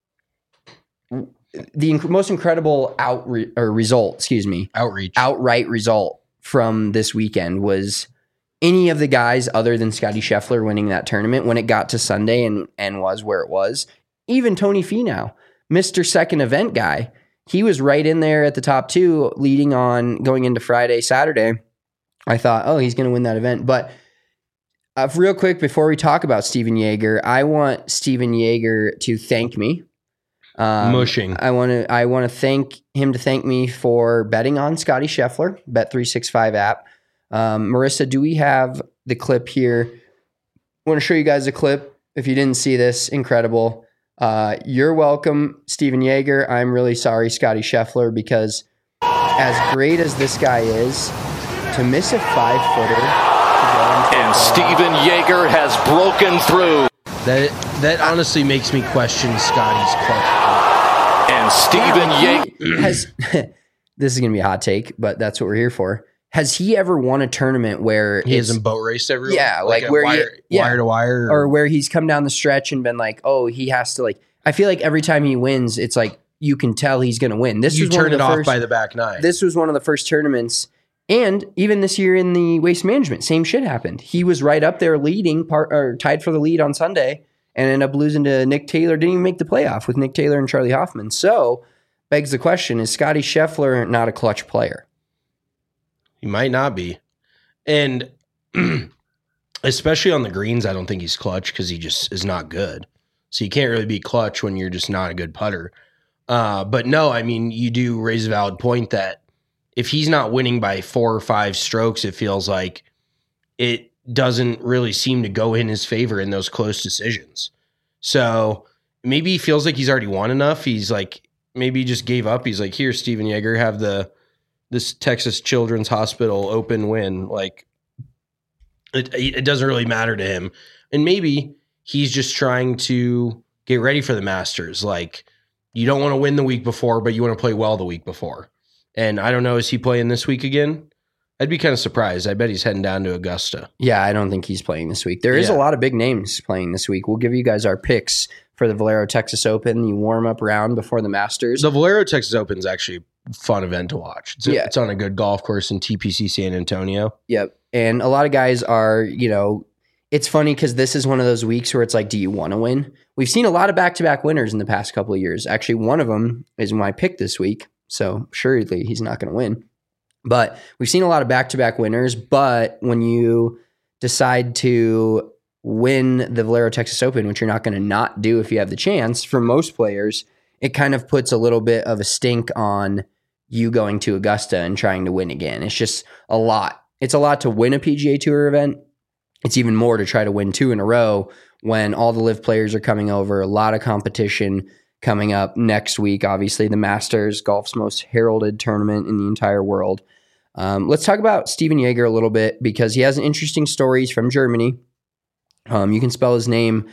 Speaker 5: the inc- most incredible out re- or result. Excuse me,
Speaker 4: Outreach.
Speaker 5: outright result from this weekend was any of the guys other than Scotty Scheffler winning that tournament when it got to Sunday and and was where it was. Even Tony Finau, Mister Second Event guy, he was right in there at the top two, leading on going into Friday, Saturday. I thought, oh, he's going to win that event. But uh, real quick, before we talk about Steven Yeager, I want Steven Yeager to thank me. Um,
Speaker 4: Mushing.
Speaker 5: I want to. I want to thank him to thank me for betting on Scotty Scheffler, Bet three sixty-five app. Um, Marissa, do we have the clip here? I want to show you guys a clip. If you didn't see this, incredible. Uh, you're welcome, Steven Yeager. I'm really sorry, Scotty Scheffler, because as great as this guy is, to miss a five footer,
Speaker 7: And Steven Yeager has broken through.
Speaker 4: That that honestly makes me question Scotty's clutch.
Speaker 7: And Steven Yeager
Speaker 5: has. This is going to be a hot take, but that's what we're here for. Has he ever won a tournament where
Speaker 4: He
Speaker 5: it's-
Speaker 4: hasn't boat raced everyone?
Speaker 5: Yeah, like
Speaker 4: a
Speaker 5: where
Speaker 4: wire,
Speaker 5: you- yeah.
Speaker 4: wire to wire?
Speaker 5: or where he's come down the stretch and been like, oh, he has to like. I feel like every time he wins, it's like you can tell he's going to win. This
Speaker 4: you
Speaker 5: was one
Speaker 4: turn
Speaker 5: of
Speaker 4: it
Speaker 5: the
Speaker 4: off
Speaker 5: first,
Speaker 4: by the back nine.
Speaker 5: This was one of the first tournaments, and even this year in the Waste Management, same shit happened. He was right up there leading, part or tied for the lead on Sunday, and ended up losing to Nick Taylor. Didn't even make the playoff with Nick Taylor and Charlie Hoffman. So begs the question: is Scotty Scheffler not a clutch player?
Speaker 4: He might not be. And especially on the greens, I don't think he's clutch because he just is not good. So you can't really be clutch when you're just not a good putter. Uh, but no, I mean, you do raise a valid point that if he's not winning by four or five strokes, it feels like it doesn't really seem to go in his favor in those close decisions. So maybe he feels like he's already won enough. He's like, maybe he just gave up. He's like, here, Steven Yeager, have the this Texas Children's Hospital open win. Like, it, it doesn't really matter to him. And maybe he's just trying to get ready for the Masters. Like, you don't want to win the week before, but you want to play well the week before. And I don't know, is he playing this week again? I'd be kind of surprised. I bet he's heading down to Augusta.
Speaker 5: Yeah, I don't think he's playing this week. There is
Speaker 4: Yeah.
Speaker 5: a lot of big names playing this week. We'll give you guys our picks for the Valero Texas Open, the warm-up round before the Masters.
Speaker 4: The Valero Texas Open is actually a fun event to watch. It's,
Speaker 5: Yeah.
Speaker 4: it's on a good golf course in T P C San Antonio.
Speaker 5: Yep. And a lot of guys are, you know, it's funny because this is one of those weeks where it's like, do you want to win? We've seen a lot of back-to-back winners in the past couple of years. Actually, one of them is my pick this week. So surely he's not going to win. But we've seen a lot of back-to-back winners. But when you decide to win the Valero Texas Open, which you're not going to not do if you have the chance, for most players, it kind of puts a little bit of a stink on you going to Augusta and trying to win again. It's just a lot. It's a lot to win a P G A Tour event. It's even more to try to win two in a row when all the live players are coming over, a lot of competition coming up next week. Obviously, the Masters, golf's most heralded tournament in the entire world. Um, let's talk about Steven Yeager a little bit because he has an interesting story. He's from Germany. Um, you can spell his name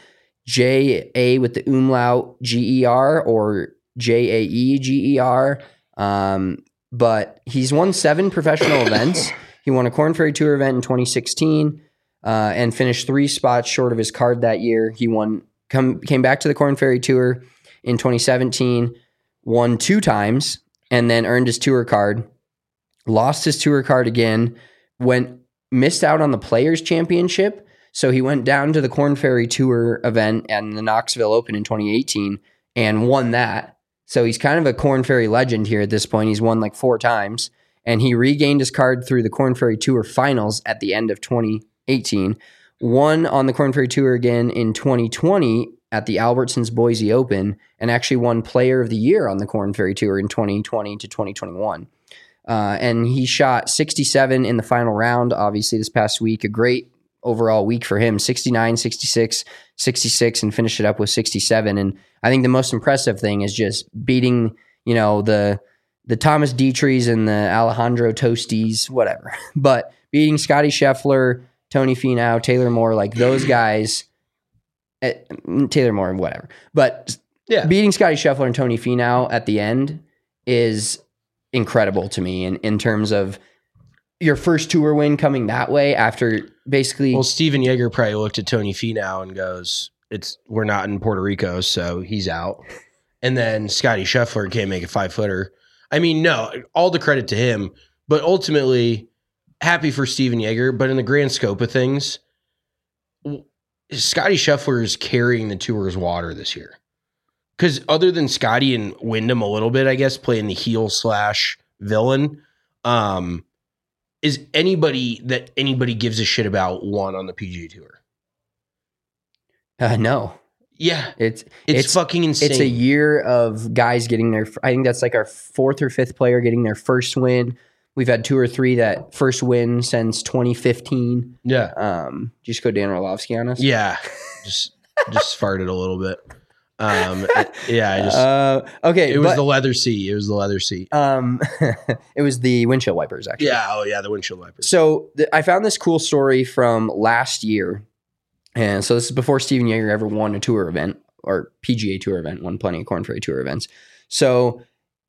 Speaker 5: J A with the umlaut G E R or J A E G E R. Um, but he's won seven professional events. He won a Korn Ferry Tour event in twenty sixteen uh, and finished three spots short of his card that year. He won, come, came back to the Korn Ferry Tour in twenty seventeen, won two times, and then earned his tour card. Lost his tour card again, went missed out on the Players Championship, so he went down to the Korn Ferry Tour event and the Knoxville Open in twenty eighteen and won that. So he's kind of a Korn Ferry legend here at this point. He's won like four times, and he regained his card through the Korn Ferry Tour finals at the end of twenty eighteen. Won on the Korn Ferry Tour again in twenty twenty at the Albertsons Boise Open, and actually won Player of the Year on the Korn Ferry Tour in twenty twenty to twenty twenty-one. Uh, and he shot sixty-seven in the final round, obviously, this past week. A great overall week for him, sixty-nine, sixty-six, sixty-six, and finished it up with sixty-seven. And I think the most impressive thing is just beating, you know, the the Thomas Dietrichs and the Alejandro Tostis, whatever. But beating Scotty Scheffler, Tony Finau, Taylor Moore, like those guys, eh, Taylor Moore, whatever. But yeah, beating Scotty Scheffler and Tony Finau at the end is incredible to me in, in terms of your first tour win coming that way after basically.
Speaker 4: Well, Steven Yeager probably looked at Tony Finau and goes, "It's we're not in Puerto Rico, so he's out." And then Scotty Scheffler can't make a five footer. I mean, no, all the credit to him, but ultimately happy for Steven Yeager. But in the grand scope of things, Scotty Scheffler is carrying the tour's water this year. Because other than Scotty and Wyndham a little bit, I guess, playing the heel slash villain, um, is anybody that anybody gives a shit about one on the P G A Tour?
Speaker 5: Uh, no.
Speaker 4: Yeah.
Speaker 5: It's,
Speaker 4: it's
Speaker 5: it's
Speaker 4: fucking insane.
Speaker 5: It's a year of guys getting their, I think that's like our fourth or fifth player getting their first win. We've had two or three that first win since twenty fifteen.
Speaker 4: Yeah.
Speaker 5: Um, did you just go Dan Orlovsky on us?
Speaker 4: Yeah. just just farted a little bit. Um, it, yeah, I just,
Speaker 5: uh, okay.
Speaker 4: It was
Speaker 5: but,
Speaker 4: the leather seat. It was the leather seat.
Speaker 5: Um, it was the windshield wipers, actually.
Speaker 4: Yeah. Oh yeah. The windshield wipers.
Speaker 5: So th- I found this cool story from last year. And so this is before Steven Yeager ever won a tour event or P G A Tour event, won plenty of Korn Ferry Tour events. So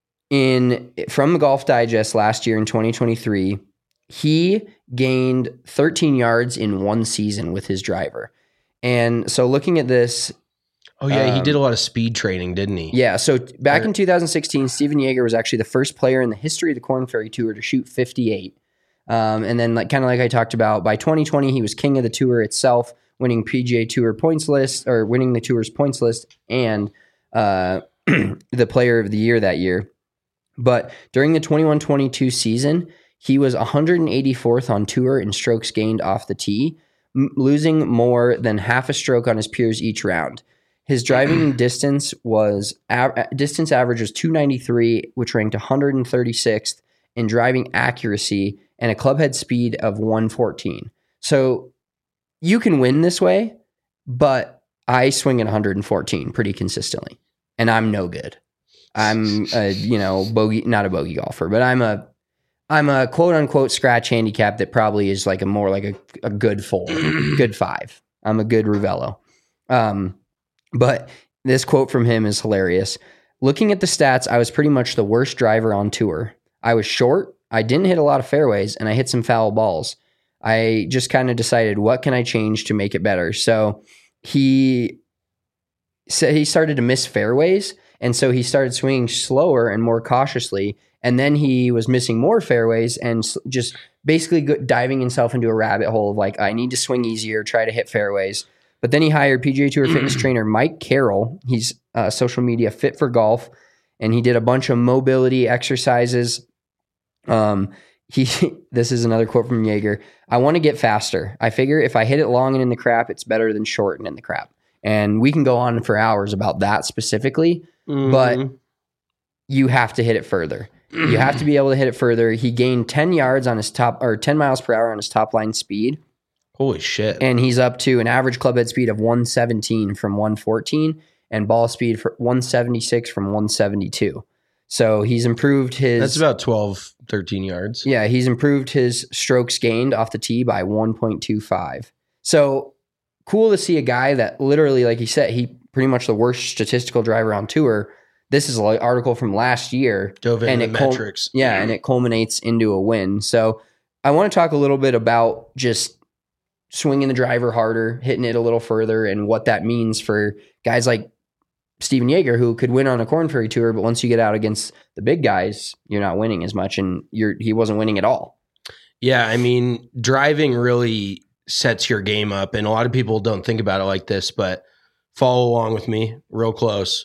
Speaker 5: in, from the Golf Digest last year in twenty twenty-three, he gained thirteen yards in one season with his driver. And so looking at this,
Speaker 4: Oh, yeah,
Speaker 5: um,
Speaker 4: he did a lot of speed training, didn't he?
Speaker 5: Yeah, so t- back in two thousand sixteen, Steven Yeager was actually the first player in the history of the Korn Ferry Tour to shoot fifty-eight. Um, and then, like kind of like I talked about, by twenty twenty, he was king of the tour itself, winning P G A Tour points list, or winning the tour's points list, and uh, the player of the year that year. But during the twenty-one twenty-two season, he was one hundred eighty-fourth on tour in strokes gained off the tee, m- losing more than half a stroke on his peers each round. His driving distance was a- distance average was two ninety-three, which ranked one hundred thirty-sixth in driving accuracy, and a club head speed of one fourteen. So you can win this way, but I swing at one hundred fourteen pretty consistently, and I'm no good. I'm a, you know, bogey, not a bogey golfer, but I'm a I'm a quote unquote scratch handicap that probably is like a more like a, a good four, good five. I'm a good Ruvello. Um, But this quote from him is hilarious. Looking at the stats, I was pretty much the worst driver on tour. I was short, I didn't hit a lot of fairways, and I hit some foul balls. I just kind of decided, what can I change to make it better? So he said he started to miss fairways, and so he started swinging slower and more cautiously, and then he was missing more fairways and just basically diving himself into a rabbit hole of like, I need to swing easier, try to hit fairways. But then he hired P G A Tour fitness trainer Mike Carroll. He's uh, social media Fit for Golf, and he did a bunch of mobility exercises. Um, he this is another quote from Yeager. I want to get faster. I figure if I hit it long and in the crap, it's better than short and in the crap. And we can go on for hours about that specifically, mm-hmm. but you have to hit it further. You have to be able to hit it further. He gained ten yards on his top, or ten miles per hour on his top line speed.
Speaker 4: Holy shit.
Speaker 5: And he's up to an average club head speed of one seventeen from one fourteen and ball speed for one seventy-six from one seventy-two. So he's improved his...
Speaker 4: That's about twelve, thirteen yards.
Speaker 5: Yeah, he's improved his strokes gained off the tee by one point two five. So cool to see a guy that literally, like he said, he pretty much the worst statistical driver on tour. This is an article from last year.
Speaker 4: Dove into
Speaker 5: and
Speaker 4: the
Speaker 5: it cul-
Speaker 4: metrics.
Speaker 5: Yeah, and it culminates into a win. So I want to talk a little bit about just swinging the driver harder, hitting it a little further, and what that means for guys like Steven Yeager, who could win on a Corn Ferry Tour, but once you get out against the big guys, you're not winning as much, and you're he wasn't winning at all.
Speaker 4: Yeah, I mean, driving really sets your game up, and a lot of people don't think about it like this, but follow along with me real close.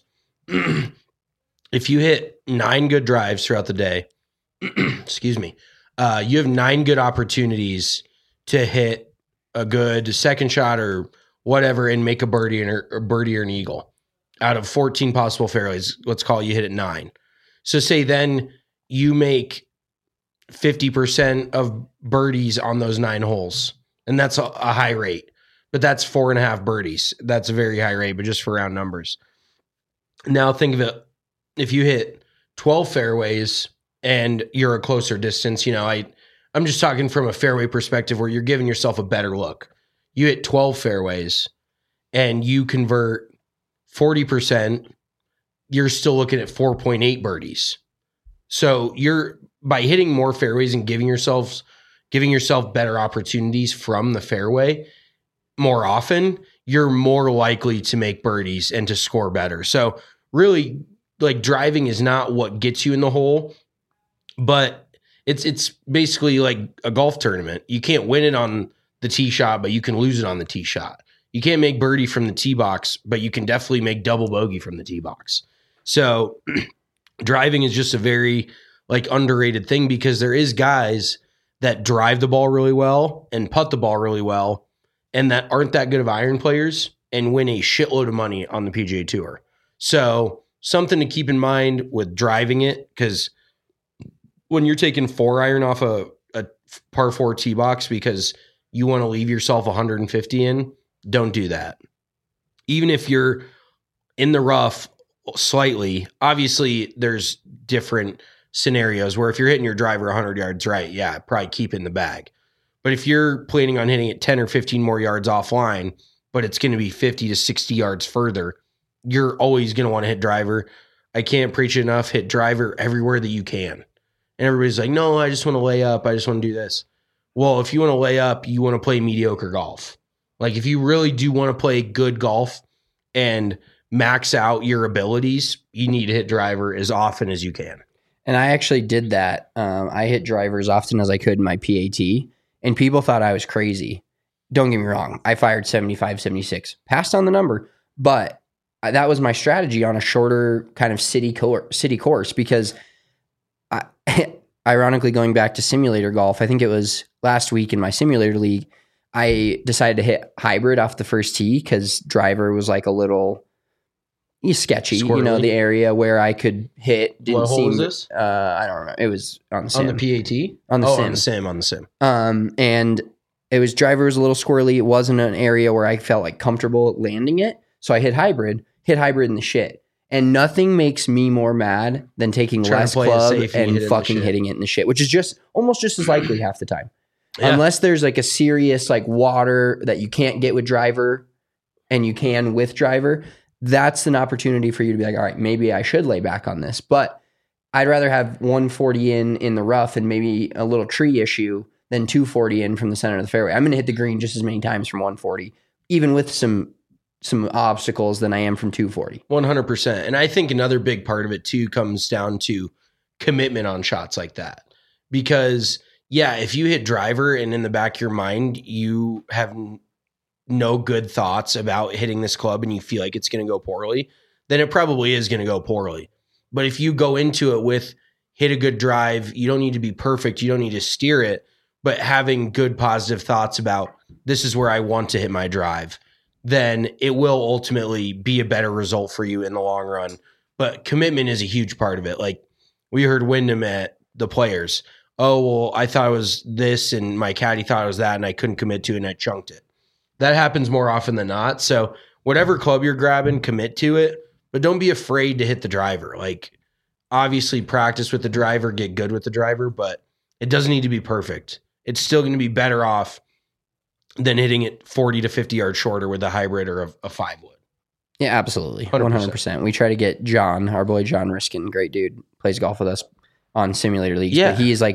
Speaker 4: If you hit nine good drives throughout the day, excuse me, uh, you have nine good opportunities to hit a good second shot or whatever and make a birdie or a birdie or an eagle. Out of fourteen possible fairways, let's call it you hit it nine. So say then you make fifty percent of birdies on those nine holes. And that's a, a high rate, but that's four and a half birdies. That's a very high rate, but just for round numbers. Now think of it. If you hit twelve fairways and you're a closer distance, you know, I, I'm just talking from a fairway perspective where you're giving yourself a better look. You hit twelve fairways and you convert forty percent, you're still looking at four point eight birdies. So you're by hitting more fairways and giving yourselves giving yourself better opportunities from the fairway more often, you're more likely to make birdies and to score better. So really, like, driving is not what gets you in the hole, but it's it's basically like a golf tournament. You can't win it on the tee shot, but you can lose it on the tee shot. You can't make birdie from the tee box, but you can definitely make double bogey from the tee box. So driving is just a very like underrated thing because there is guys that drive the ball really well and putt the ball really well and that aren't that good of iron players and win a shitload of money on the P G A Tour. So something to keep in mind with driving it, because when you're taking four iron off a, a par four tee box because you want to leave yourself one hundred fifty in, don't do that. Even if you're in the rough slightly, obviously there's different scenarios where if you're hitting your driver one hundred yards right, yeah, probably keep it in the bag. But if you're planning on hitting it ten or fifteen more yards offline, but it's going to be fifty to sixty yards further, you're always going to want to hit driver. I can't preach it enough. Hit driver everywhere that you can. And everybody's like, no, I just want to lay up. I just want to do this. Well, if you want to lay up, you want to play mediocre golf. Like if you really do want to play good golf and max out your abilities, you need to hit driver as often as you can.
Speaker 5: And I actually did that. Um, I hit driver as often as I could in my P A T, and people thought I was crazy. Don't get me wrong. I fired seventy-five, seventy-six, passed on the number, but that was my strategy on a shorter kind of city cor- city course because I, ironically, going back to simulator golf, I think it was last week in my simulator league, I decided to hit hybrid off the first tee because driver was like a little sketchy, Squirrely. You know, the area where I could hit didn't
Speaker 4: what
Speaker 5: seem.
Speaker 4: Hole was this?
Speaker 5: Uh, I don't remember. It was on the sim.
Speaker 4: On the P A T?
Speaker 5: On the
Speaker 4: oh,
Speaker 5: sim.
Speaker 4: on the sim, on the sim.
Speaker 5: Um, and it was driver was a little squirrely. It wasn't an area where I felt like comfortable landing it. So I hit hybrid, hit hybrid in the shit. And nothing makes me more mad than taking
Speaker 4: Trying
Speaker 5: less club and, and fucking hitting it in the shit, which is just almost just as likely half the time. Yeah. Unless there's like a serious like water that you can't get with driver and you can with driver, that's an opportunity for you to be like, all right, maybe I should lay back on this. But I'd rather have one forty in in the rough and maybe a little tree issue than two forty in from the center of the fairway. I'm going to hit the green just as many times from one forty, even with some some obstacles than I am from two forty.
Speaker 4: one hundred percent. And I think another big part of it too comes down to commitment on shots like that. Because yeah, if you hit driver and in the back of your mind, you have no good thoughts about hitting this club and you feel like it's going to go poorly, then it probably is going to go poorly. But if you go into it with hit a good drive, you don't need to be perfect. You don't need to steer it, but having good positive thoughts about this is where I want to hit my drive, then it will ultimately be a better result for you in the long run. But commitment is a huge part of it. Like we heard Wyndham at the Players. Oh, well, I thought it was this and my caddy thought it was that and I couldn't commit to it and I chunked it. That happens more often than not. So whatever club you're grabbing, commit to it, but don't be afraid to hit the driver. Like obviously practice with the driver, get good with the driver, but it doesn't need to be perfect. It's still going to be better off than hitting it forty to fifty yards shorter with a hybrid or a, a five wood.
Speaker 5: Yeah, absolutely. one hundred percent. one hundred percent. We try to get John, our boy John Riskin, great dude, plays golf with us on simulator leagues.
Speaker 4: Yeah.
Speaker 5: But he is like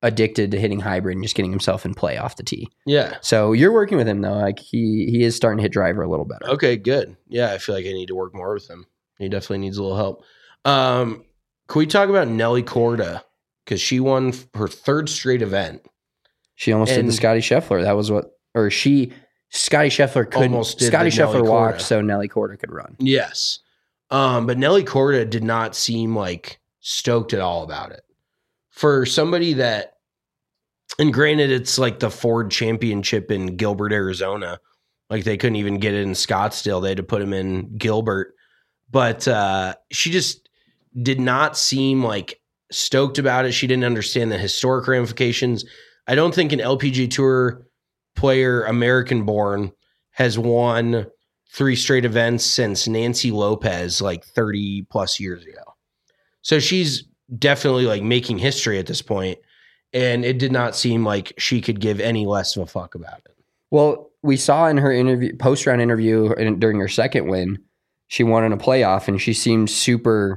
Speaker 5: addicted to hitting hybrid and just getting himself in play off the tee.
Speaker 4: Yeah.
Speaker 5: So you're working with him though. Like he he is starting to hit driver a little better.
Speaker 4: Okay, good. Yeah, I feel like I need to work more with him. He definitely needs a little help. Um, can we talk about Nelly Korda? Because she won her third straight event.
Speaker 5: She almost
Speaker 4: And-
Speaker 5: did the Scotty Scheffler. That was what, or she, Scotty Scheffler couldn't.
Speaker 4: Almost did
Speaker 5: Scotty
Speaker 4: the Nelly
Speaker 5: Scheffler walked,
Speaker 4: Korda.
Speaker 5: so Nelly Korda could run.
Speaker 4: Yes. Um, but Nelly Korda did not seem like stoked at all about it. For somebody that, and granted, it's like the Ford Championship in Gilbert, Arizona. Like they couldn't even get it in Scottsdale. They had to put him in Gilbert. But uh, she just did not seem like stoked about it. She didn't understand the historic ramifications. I don't think an L P G A Tour player, American born, has won three straight events since Nancy Lopez like thirty plus years ago. So she's definitely like making history at this point, and it did not seem like she could give any less of a fuck about it.
Speaker 5: Well, we saw in her interview, post round interview in, during her second win, she won in a playoff, and she seemed super.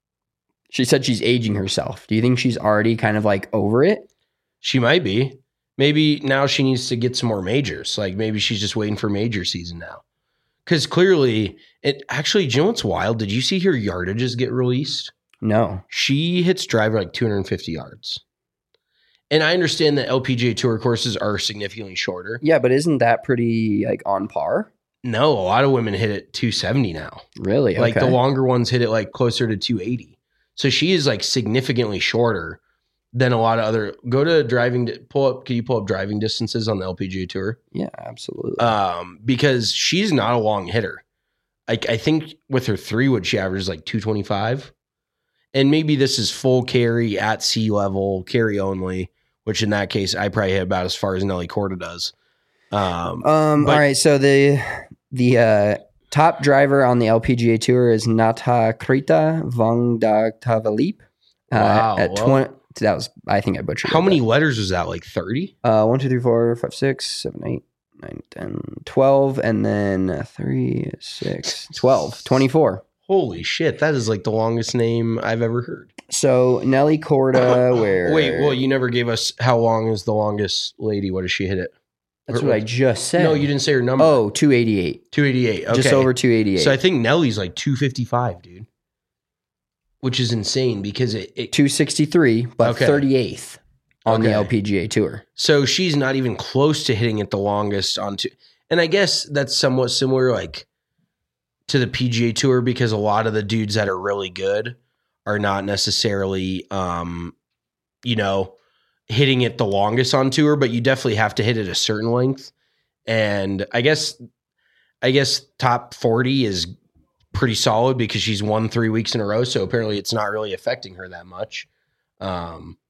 Speaker 5: She said she's aging herself. Do you think she's already kind of like over it?
Speaker 4: She might be. Maybe now she needs to get some more majors. Like maybe she's just waiting for major season now. Because clearly, it actually, do you know what's wild? Did you see her yardages get released?
Speaker 5: No.
Speaker 4: She hits driver like two hundred fifty yards. And I understand that L P G A Tour courses are significantly shorter.
Speaker 5: Yeah, but isn't that pretty like on par?
Speaker 4: No, a lot of women hit it two hundred seventy now.
Speaker 5: Really?
Speaker 4: Like
Speaker 5: okay.
Speaker 4: the longer ones hit it like closer to two hundred eighty. So she is like significantly shorter than a lot of other. Go to driving. Pull up. Can you pull up driving distances on the L P G A Tour?
Speaker 5: Yeah, absolutely.
Speaker 4: Um, because she's not a long hitter. Like I think with her three wood, she averages like two twenty five, and maybe this is full carry at sea level, carry only. Which in that case, I probably hit about as far as Nelly Korda does. Um,
Speaker 5: um.
Speaker 4: but-
Speaker 5: all right. So the the uh, top driver on the L P G A Tour is Natakrita Vongdagtavalip. Uh,
Speaker 4: Wow,
Speaker 5: At
Speaker 4: well-
Speaker 5: twenty. That was. I think I butchered.
Speaker 4: how
Speaker 5: it,
Speaker 4: many
Speaker 5: but-
Speaker 4: letters was that? Like thirty?
Speaker 5: Uh, one, two, three, four, five, six, seven, eight, nine, ten, twelve, and then uh, three, six, twelve, twenty-four.
Speaker 4: Holy shit! That is like the longest name I've ever heard.
Speaker 5: So Nelly Korda, where?
Speaker 4: Wait, well, you never gave us how long is the longest lady? What does she hit it?
Speaker 5: That's
Speaker 4: Or-
Speaker 5: what I just said.
Speaker 4: No, you didn't say her number.
Speaker 5: Oh, two eighty-eight.
Speaker 4: two eighty-eight. Okay.
Speaker 5: Just over two eighty-eight.
Speaker 4: So I think Nelly's like two fifty-five, dude. Which is insane because it, it
Speaker 5: two sixty-three, but
Speaker 4: Okay.
Speaker 5: thirty-eighth on the
Speaker 4: Okay.
Speaker 5: L P G A Tour.
Speaker 4: so she's not even close to hitting it the longest on two. And I guess that's somewhat similar like to the P G A Tour because a lot of the dudes that are really good are not necessarily um you know hitting it the longest on tour, but you definitely have to hit it a certain length. And I guess I guess top forty is pretty solid because she's won three weeks in a row. So apparently it's not really affecting her that much. Um,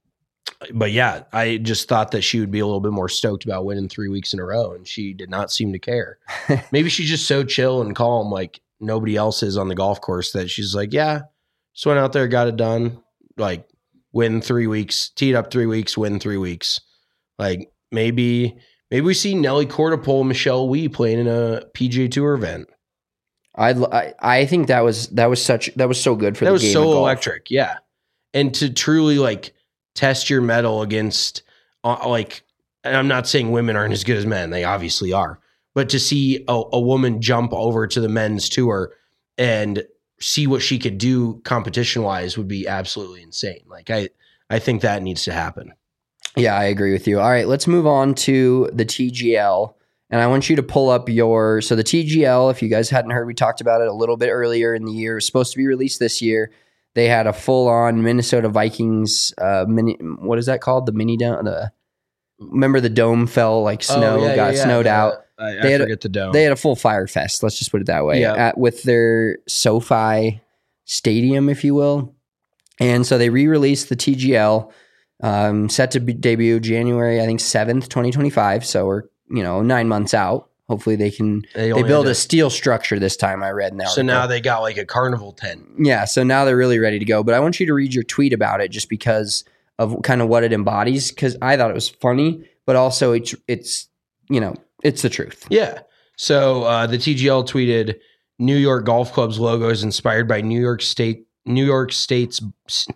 Speaker 4: but yeah, I just thought that she would be a little bit more stoked about winning three weeks in a row, and she did not seem to care. Maybe she's just so chill and calm, like nobody else is on the golf course, that she's like, yeah, just went out there, got it done. Like win three weeks, teed up three weeks, win three weeks. Like maybe, maybe we see Nelly Korda pull Michelle Wie playing in a P G A Tour event.
Speaker 5: I'd, I I think that was that was such that was so good for
Speaker 4: That
Speaker 5: the
Speaker 4: was
Speaker 5: game
Speaker 4: so
Speaker 5: of golf.
Speaker 4: electric, yeah. And to truly like test your mettle against uh, like, and I'm not saying women aren't as good as men, they obviously are, but to see a, a woman jump over to the men's tour and see what she could do competition wise would be absolutely insane. Like I, I think that needs to happen.
Speaker 5: Yeah, I agree with you. All right, let's move on to the T G L. And I want you to pull up your, so the T G L, if you guys hadn't heard, we talked about it a little bit earlier in the year. It was supposed to be released this year. They had a full-on Minnesota Vikings, uh, mini, what is that called? The mini dome? The, remember the dome fell, like snow,
Speaker 4: Oh, yeah,
Speaker 5: got
Speaker 4: yeah, yeah.
Speaker 5: snowed
Speaker 4: The-
Speaker 5: out.
Speaker 4: I,
Speaker 5: They
Speaker 4: I
Speaker 5: had a-
Speaker 4: forget the dome.
Speaker 5: They had a full fire fest, let's just put it that way,
Speaker 4: Yeah.
Speaker 5: at, with their SoFi Stadium, if you will. And so they re-released the T G L, um, set to be, debut January, I think, seventh, twenty twenty-five. So we're, you know, nine months out. Hopefully they can,
Speaker 4: They
Speaker 5: they
Speaker 4: only
Speaker 5: build
Speaker 4: had
Speaker 5: a
Speaker 4: to-
Speaker 5: steel structure this time, I read in the
Speaker 4: so
Speaker 5: article.
Speaker 4: now they got like a carnival tent.
Speaker 5: Yeah, so now they're really ready to go. But I want you to read your tweet about it just because of kind of what it embodies, because I thought it was funny, but also it's, it's you know, it's the truth.
Speaker 4: Yeah. So uh, the T G L tweeted, New York Golf Club's logo is inspired by New York State, New York State's,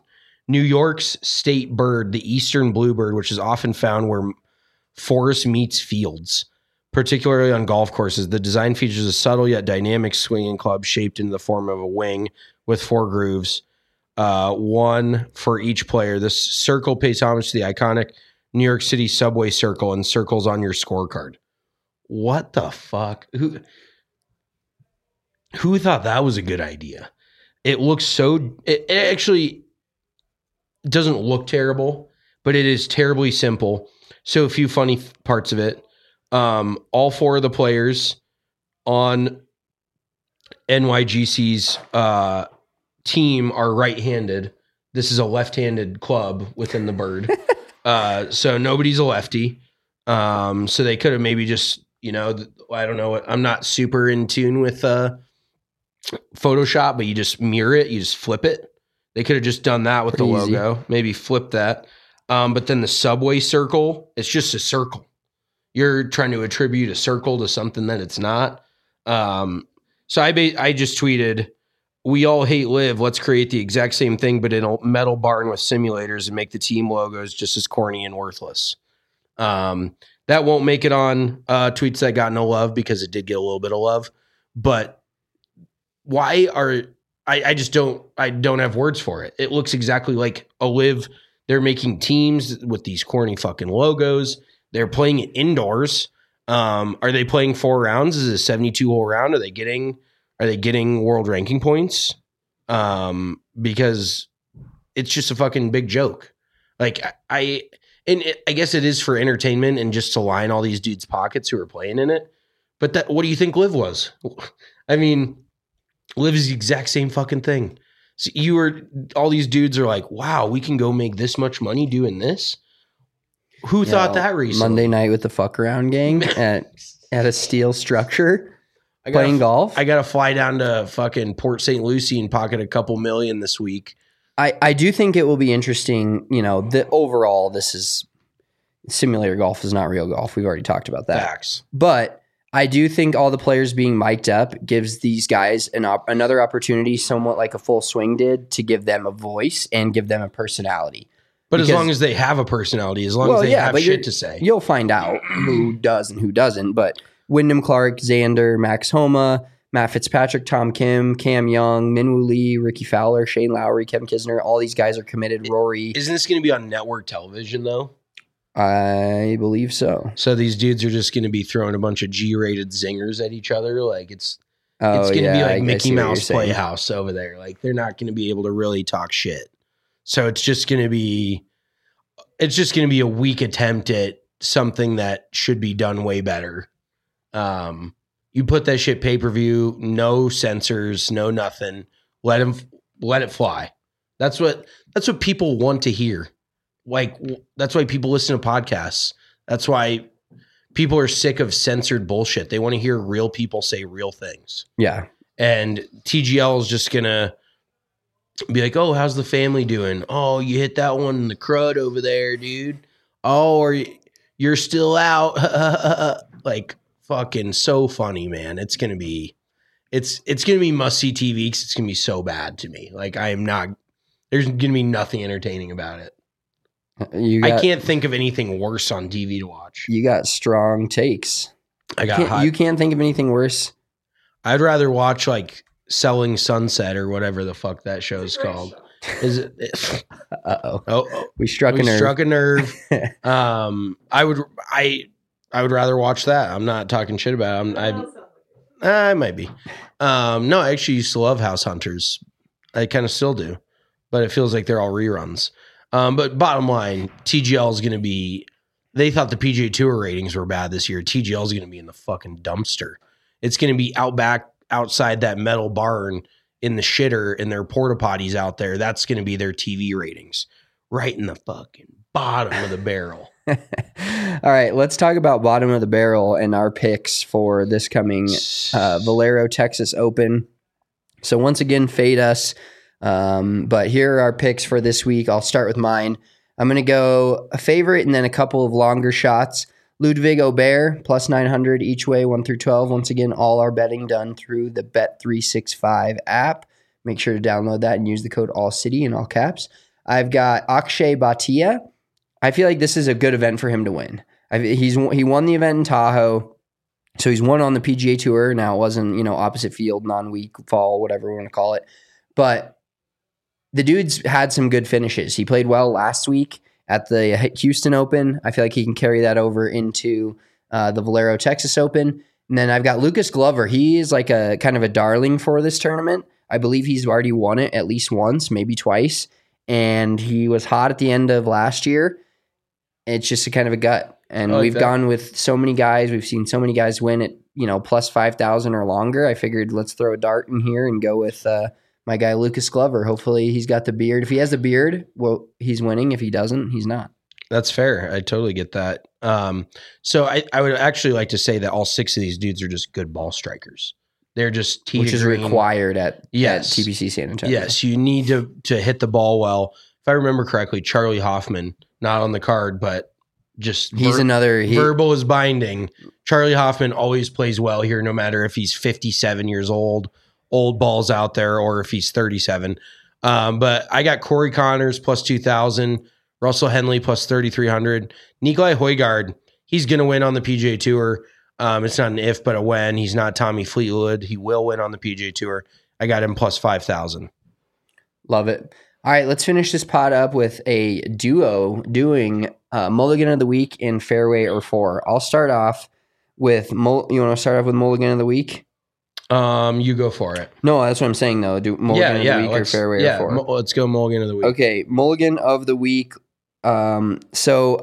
Speaker 4: New York's state bird, the eastern bluebird, which is often found where forest meets fields, particularly on golf courses. The design features a subtle yet dynamic swinging club shaped in the form of a wing with four grooves, uh, one for each player. This circle pays homage to the iconic New York City subway circle and circles on your scorecard. What the fuck? Who who thought that was a good idea? It looks so... It, it actually doesn't look terrible, but it is terribly simple. So a few funny parts of it. Um, all four of the players on N Y G C's uh, team are right-handed. This is a left-handed club within the bird. uh, so nobody's a lefty. Um, so they could have maybe just, you know, I don't know. I'm not super in tune with uh, Photoshop, but you just mirror it. You just flip it. They could have just done that with Pretty the logo. Easy. Maybe flip that. Um, but then the subway circle, it's just a circle. You're trying to attribute a circle to something that it's not. Um, so I ba- I just tweeted, we all hate Live. Let's create the exact same thing, but in a metal barn with simulators and make the team logos just as corny and worthless. Um, that won't make it on uh, tweets that got no love because it did get a little bit of love. But why are I, I just don't I don't have words for it. It looks exactly like a Live. They're making teams with these corny fucking logos. They're playing it indoors. Um, are they playing four rounds? Is it a seventy-two hole round? Are they getting are they getting world ranking points? Um, because it's just a fucking big joke. Like I and it, I guess it is for entertainment and just to line all these dudes' pockets who are playing in it. But that what do you think Live was? I mean, Live is the exact same fucking thing. So you were all these dudes are like, wow, we can go make this much money doing this. Who
Speaker 5: Yeah,
Speaker 4: thought that recently?
Speaker 5: Monday night with the fuck around gang at at a steel structure
Speaker 4: I gotta,
Speaker 5: playing golf.
Speaker 4: I got to fly down to fucking Port Saint Lucie and pocket a couple million this week.
Speaker 5: I, I do think it will be interesting. You know, the overall, this is simulator golf is not real golf. We've already talked about that.
Speaker 4: Facts.
Speaker 5: But I do think all the players being mic'd up gives these guys an op- another opportunity, somewhat like a Full Swing did, to give them a voice and give them a personality.
Speaker 4: But
Speaker 5: Because-
Speaker 4: as long as they have a personality, as long
Speaker 5: Well,
Speaker 4: as they
Speaker 5: yeah,
Speaker 4: have
Speaker 5: but you're-
Speaker 4: shit to say.
Speaker 5: You'll find out who does and who doesn't. But Wyndham Clark, Xander, Max Homa, Matt Fitzpatrick, Tom Kim, Cam Young, Minwoo Lee, Ricky Fowler, Shane Lowry, Kevin Kisner, all these guys are committed. Rory,
Speaker 4: Isn't this going to be on network television, though?
Speaker 5: I believe so.
Speaker 4: So these dudes are just going to be throwing a bunch of G-rated zingers at each other? Like, it's
Speaker 5: Oh,
Speaker 4: it's going to
Speaker 5: yeah,
Speaker 4: be
Speaker 5: I-
Speaker 4: like
Speaker 5: I
Speaker 4: Mickey
Speaker 5: see what you're
Speaker 4: Mouse
Speaker 5: saying.
Speaker 4: Playhouse over there. Like, they're not going to be able to really talk shit. So it's just going to be it's just going to be a weak attempt at something that should be done way better. Um, you put that shit pay-per-view, no censors, no nothing. Let them let it fly. That's what that's what people want to hear. Like, that's why people listen to podcasts. That's why people are sick of censored bullshit. They want to hear real people say real things.
Speaker 5: Yeah.
Speaker 4: And T G L is just going to be like, oh, how's the family doing? Oh, you hit that one in the crud over there, dude. Oh, or you're still out. Like, fucking so funny, man. It's going to be, it's, it's going to be must-see T V because it's going to be so bad to me. Like, I am not, there's going to be nothing entertaining about it.
Speaker 5: You got,
Speaker 4: I can't think of anything worse on T V to watch.
Speaker 5: You got strong takes.
Speaker 4: I got
Speaker 5: Can't-
Speaker 4: hot.
Speaker 5: you can't think of anything worse.
Speaker 4: I'd rather watch like Selling Sunset or whatever the fuck that show's called. Is it? it
Speaker 5: Uh-oh.
Speaker 4: oh, oh,
Speaker 5: We struck
Speaker 4: we
Speaker 5: a nerve.
Speaker 4: struck a nerve. um, I would, I, I would rather watch that. I'm not talking shit about it. I'm, I, I might be. Um, no, I actually used to love House Hunters. I kind of still do, but it feels like they're all reruns. Um, but bottom line, T G L is going to be. They thought the P G A Tour ratings were bad this year. T G L is going to be in the fucking dumpster. It's going to be out back outside that metal barn in the shitter in their porta potties out there. That's going to be their T V ratings, right in the fucking bottom of the barrel.
Speaker 5: All right, let's talk about bottom of the barrel and our picks for this coming uh, Valero Texas Open. So once again, fade us. Um, but here are our picks for this week. I'll start with mine. I'm going to go a favorite and then a couple of longer shots. Ludwig Aubert, plus nine hundred each way, one through twelve. Once again, all our betting done through the Bet three sixty-five app. Make sure to download that and use the code AllCity in all caps. I've got Akshay Bhatia. I feel like this is a good event for him to win. I've, he's he won the event in Tahoe, so he's won on the P G A Tour. Now it wasn't, you know, opposite field, non-week, fall, whatever we want to call it, but the dude's had some good finishes. He played well last week at the Houston Open. I feel like he can carry that over into uh, the Valero Texas Open. And then I've got Lucas Glover. He is like a kind of a darling for this tournament. I believe he's already won it at least once, maybe twice. And he was hot at the end of last year. It's just a kind of a gut. And like we've that. gone with so many guys. We've seen so many guys win at, you know, plus five thousand or longer. I figured let's throw a dart in here and go with uh, my guy Lucas Glover. Hopefully he's got the beard. If he has the beard, well, he's winning. If he doesn't, he's not.
Speaker 4: That's fair. I totally get that. Um, so I, I would actually like to say that all six of these dudes are just good ball strikers. They're just tee
Speaker 5: which is
Speaker 4: green.
Speaker 5: required at,
Speaker 4: yes.
Speaker 5: at T P C San Antonio.
Speaker 4: Yes, you need to to hit the ball well. If I remember correctly, Charlie Hoffman, not on the card, but just
Speaker 5: he's ver- another he,
Speaker 4: verbal is binding. Charlie Hoffman always plays well here, no matter if he's fifty-seven years old, old balls out there, or if he's thirty-seven. Um, but I got Corey Connors plus two thousand. Russell Henley plus thirty-three hundred. Nikolai Højgaard, he's going to win on the P G A Tour. Um, it's not an if, but a when. He's not Tommy Fleetwood. He will win on the P G A Tour. I got him plus five thousand.
Speaker 5: Love it. All right, let's finish this pod up with a duo doing uh, Mulligan of the Week in Fairway or Four. I'll start off with, Mul- you want to start off with Mulligan of the Week?
Speaker 4: Um, you go for it.
Speaker 5: No, that's what I'm saying, though. Do Mulligan
Speaker 4: yeah,
Speaker 5: of
Speaker 4: yeah,
Speaker 5: the Week or Fairway
Speaker 4: yeah,
Speaker 5: or Four?
Speaker 4: Mo- let's go Mulligan of the Week.
Speaker 5: Okay, Mulligan of the Week. Um, so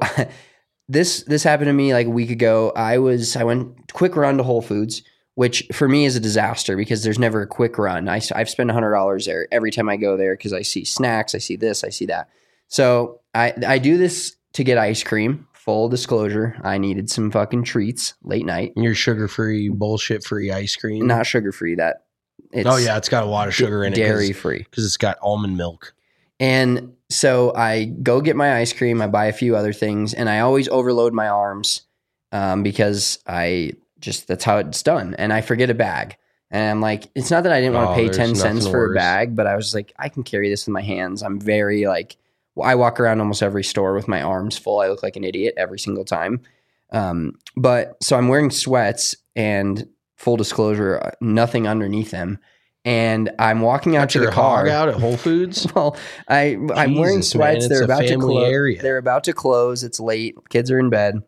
Speaker 5: this this happened to me like a week ago. I was I went quick run to Whole Foods, which for me is a disaster because there's never a quick run. I, I've spent one hundred dollars there every time I go there because I see snacks, I see this, I see that. So I I do this to get ice cream. Full disclosure, I needed some fucking treats late night.
Speaker 4: Your sugar-free, bullshit-free ice cream?
Speaker 5: Not sugar-free. That it's
Speaker 4: oh, yeah, it's got a lot of sugar in it.
Speaker 5: Dairy-free.
Speaker 4: Because it's got almond milk.
Speaker 5: And so I go get my ice cream. I buy a few other things, and I always overload my arms um, because I just that's how it's done. And I forget a bag, and I'm like, it's not that I didn't want to
Speaker 4: oh,
Speaker 5: pay ten cents for
Speaker 4: worse.
Speaker 5: a bag, but I was like, I can carry this in my hands. I'm very like, I walk around almost every store with my arms full. I look like an idiot every single time. Um, but so I'm wearing sweats, and full disclosure, nothing underneath them. And I'm walking out
Speaker 4: Got
Speaker 5: to
Speaker 4: your
Speaker 5: the car.
Speaker 4: Hog out at Whole Foods.
Speaker 5: Well, I I'm
Speaker 4: Jesus,
Speaker 5: wearing sweats.
Speaker 4: man,
Speaker 5: They're about to close. They're about to close. It's late. Kids are in bed.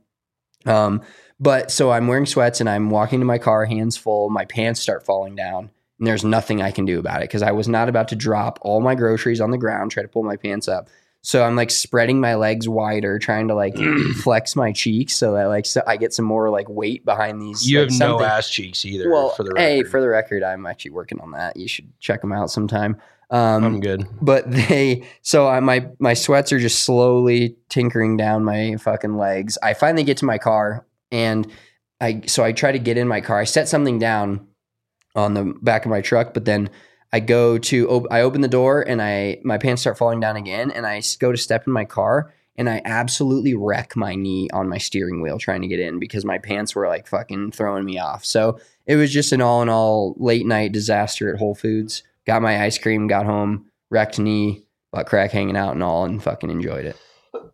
Speaker 5: Um, but so I'm wearing sweats and I'm walking to my car, hands full. My pants start falling down, and there's nothing I can do about it because I was not about to drop all my groceries on the ground, try to pull my pants up. So I'm like spreading my legs wider, trying to like flex my cheeks so that like so I get some more like weight behind these.
Speaker 4: You
Speaker 5: like,
Speaker 4: have
Speaker 5: something.
Speaker 4: no ass cheeks either.
Speaker 5: Well,
Speaker 4: for the record.
Speaker 5: hey, for the record, I'm actually working on that. You should check them out sometime. Um,
Speaker 4: I'm good.
Speaker 5: But they, so I, my my sweats are just slowly tinkering down my fucking legs. I finally get to my car, and I so I try to get in my car. I set something down on the back of my truck, but then I go to, op- I open the door and I, my pants start falling down again, and I go to step in my car and I absolutely wreck my knee on my steering wheel trying to get in because my pants were like fucking throwing me off. So it was just an all in all late night disaster at Whole Foods. Got my ice cream, got home, wrecked knee, butt crack hanging out and all, and fucking enjoyed it.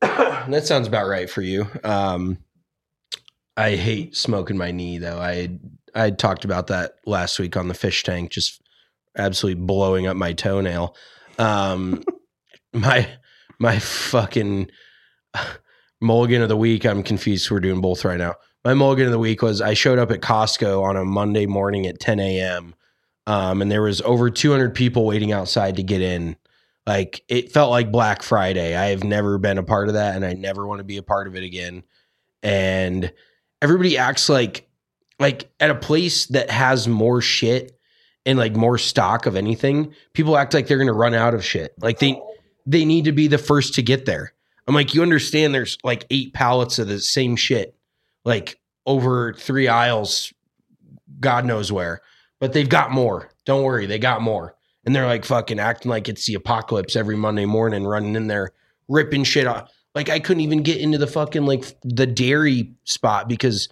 Speaker 4: That sounds about right for you. Um, I hate smoking my knee though. I I talked about that last week on the fish tank, just absolutely blowing up my toenail. Um, my my fucking mulligan of the week. I'm confused. We're doing both right now. My mulligan of the week was I showed up at Costco on a Monday morning at ten a.m. Um, and there was over two hundred people waiting outside to get in. Like it felt like Black Friday. I have never been a part of that, and I never want to be a part of it again. And everybody acts like like at a place that has more shit and like more stock of anything, people act like they're going to run out of shit. Like they, they need to be the first to get there. I'm like, you understand there's like eight pallets of the same shit, like over three aisles, God knows where, but they've got more. Don't worry. They got more. And they're like fucking acting like it's the apocalypse every Monday morning, running in there, ripping shit off. Like I couldn't even get into the fucking like the dairy spot because,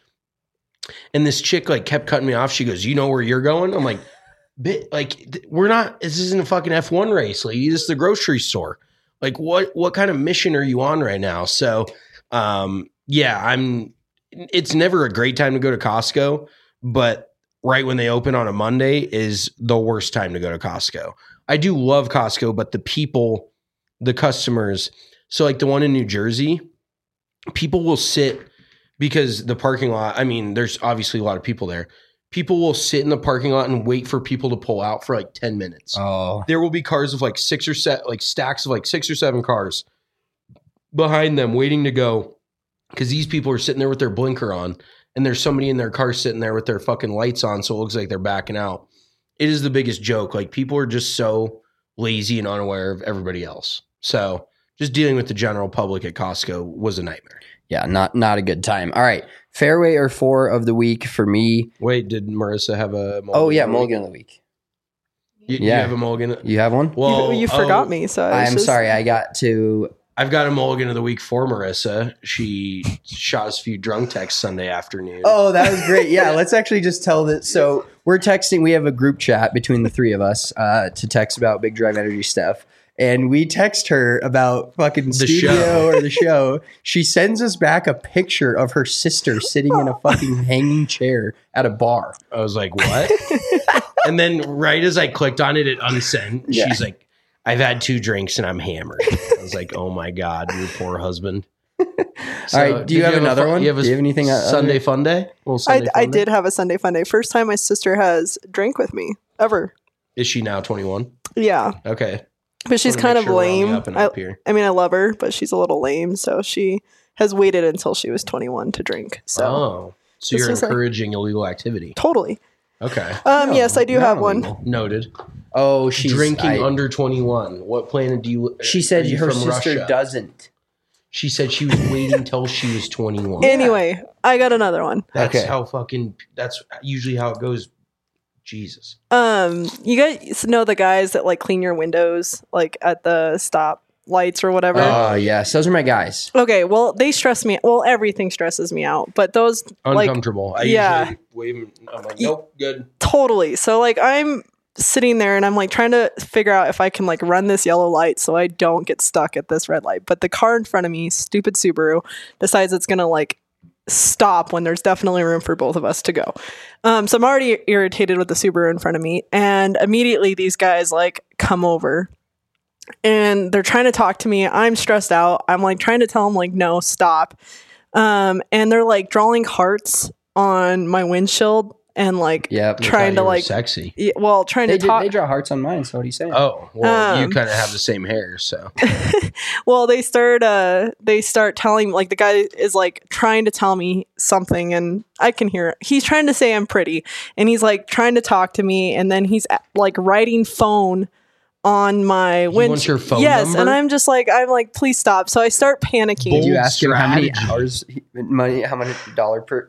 Speaker 4: and this chick like kept cutting me off. She goes, you know where you're going? I'm like, bit like th- we're not, this isn't a fucking F one race. Like this is the grocery store. Like what what kind of mission are you on right now? So um, yeah, I'm. It's never a great time to go to Costco, but right when they open on a Monday is the worst time to go to Costco. I do love Costco, but the people, the customers. So like the one in New Jersey, people will sit because the parking lot. I mean, there's obviously a lot of people there. People will sit in the parking lot and wait for people to pull out for like ten minutes.
Speaker 5: Oh,
Speaker 4: there will be cars of like six or set, like stacks of like six or seven cars behind them waiting to go because these people are sitting there with their blinker on and there's somebody in their car sitting there with their fucking lights on. So it looks like they're backing out. It is the biggest joke. Like people are just so lazy and unaware of everybody else. So just dealing with the general public at Costco was a nightmare.
Speaker 5: Yeah, not not a good time. All right. Fairway or four of the week for me.
Speaker 4: Wait, did Marissa have a mulligan?
Speaker 5: Oh, yeah, mulligan of the week.
Speaker 4: You,
Speaker 5: yeah.
Speaker 4: you have a mulligan?
Speaker 5: You have one?
Speaker 4: Well,
Speaker 8: you, you
Speaker 4: oh,
Speaker 8: forgot me. So I was
Speaker 5: I'm
Speaker 8: just,
Speaker 5: sorry. I got to.
Speaker 4: I've got a mulligan of the week for Marissa. She shot us a few drunk texts Sunday afternoon.
Speaker 5: Oh, that was great. Yeah, let's actually just tell that. So we're texting. We have a group chat between the three of us uh, to text about Big Drive Energy stuff. And we text her about fucking
Speaker 4: The
Speaker 5: studio
Speaker 4: show.
Speaker 5: or the show. She sends us back a picture of her sister sitting in a fucking hanging chair at a bar.
Speaker 4: I was like, what? And then right as I clicked on it, it unsent.
Speaker 5: Yeah.
Speaker 4: She's like, I've had two drinks and I'm hammered. I was like, oh my God, your poor husband. So,
Speaker 5: All right. Do you
Speaker 4: did
Speaker 5: have another
Speaker 4: a,
Speaker 5: one?
Speaker 4: You have a
Speaker 5: Do you have anything? uh,
Speaker 4: Sunday
Speaker 5: other-
Speaker 4: fun day? Little
Speaker 8: I,
Speaker 4: Sunday
Speaker 8: I
Speaker 4: fun day?
Speaker 8: did have a Sunday fun day. First time my sister has drank with me ever.
Speaker 4: Is she now twenty-one?
Speaker 8: Yeah.
Speaker 4: Okay.
Speaker 8: But she's
Speaker 4: Wanna
Speaker 8: kind
Speaker 4: make
Speaker 8: of
Speaker 4: sure we're on the
Speaker 8: lame.
Speaker 4: up and
Speaker 8: I,
Speaker 4: up here.
Speaker 8: I mean, I love her, but she's a little lame. So she has waited until she was twenty-one to drink. So
Speaker 4: oh, so
Speaker 8: This
Speaker 4: you're
Speaker 8: was like-
Speaker 4: encouraging illegal activity.
Speaker 8: totally.
Speaker 4: Okay.
Speaker 8: Um,
Speaker 5: No,
Speaker 8: yes, I do
Speaker 5: not
Speaker 8: have one.
Speaker 5: illegal.
Speaker 4: Noted.
Speaker 5: Oh, she's
Speaker 4: Drinking
Speaker 5: I-
Speaker 4: under twenty-one. What planet do you?
Speaker 5: She
Speaker 4: are
Speaker 5: said
Speaker 4: you
Speaker 5: her
Speaker 4: from
Speaker 5: sister
Speaker 4: Russia?
Speaker 5: doesn't.
Speaker 4: She said she was waiting till she was twenty-one.
Speaker 8: Anyway, I got another one.
Speaker 4: That's
Speaker 5: Okay.
Speaker 4: how fucking. That's usually how it goes. Jesus.
Speaker 8: Um, you guys know the guys that like clean your windows, like at the stop lights or whatever.
Speaker 5: Oh, yes. Those are my guys.
Speaker 8: Okay, well, they stress me. Well, everything stresses me out, but those like
Speaker 4: Uncomfortable. I
Speaker 8: yeah.
Speaker 4: usually wave. 'em- I'm like, nope, good.
Speaker 8: totally. So like I'm sitting there and I'm like trying to figure out if I can like run this yellow light so I don't get stuck at this red light. But the car in front of me, stupid Subaru, decides it's gonna like stop when there's definitely room for both of us to go. Um, so I'm already irritated with the Subaru in front of me, and immediately these guys like come over and they're trying to talk to me. I'm stressed out. I'm like trying to tell them like, no, stop. Um, and they're like drawing hearts on my windshield and like
Speaker 5: Yep.
Speaker 4: I
Speaker 8: trying
Speaker 4: thought
Speaker 8: to
Speaker 4: you were
Speaker 8: like,
Speaker 4: sexy.
Speaker 8: y- well, trying
Speaker 5: They,
Speaker 8: to
Speaker 5: did,
Speaker 8: talk.
Speaker 5: they draw hearts on mine, so what are you saying?
Speaker 4: Oh, well, you
Speaker 8: Um,
Speaker 4: kind of have the same hair, so
Speaker 8: Well, they start uh they start telling like the guy is like trying to tell me something and I can hear it. He's trying to say I'm pretty and he's like trying to talk to me and then he's uh, like writing phone on my windshield.
Speaker 4: wants your phone
Speaker 8: Yes,
Speaker 4: number?
Speaker 8: and I'm just like I'm like please stop. So I start panicking.
Speaker 5: Did you
Speaker 4: Bold
Speaker 5: ask him how many
Speaker 4: strategy.
Speaker 5: hours, he- money, how many dollar per?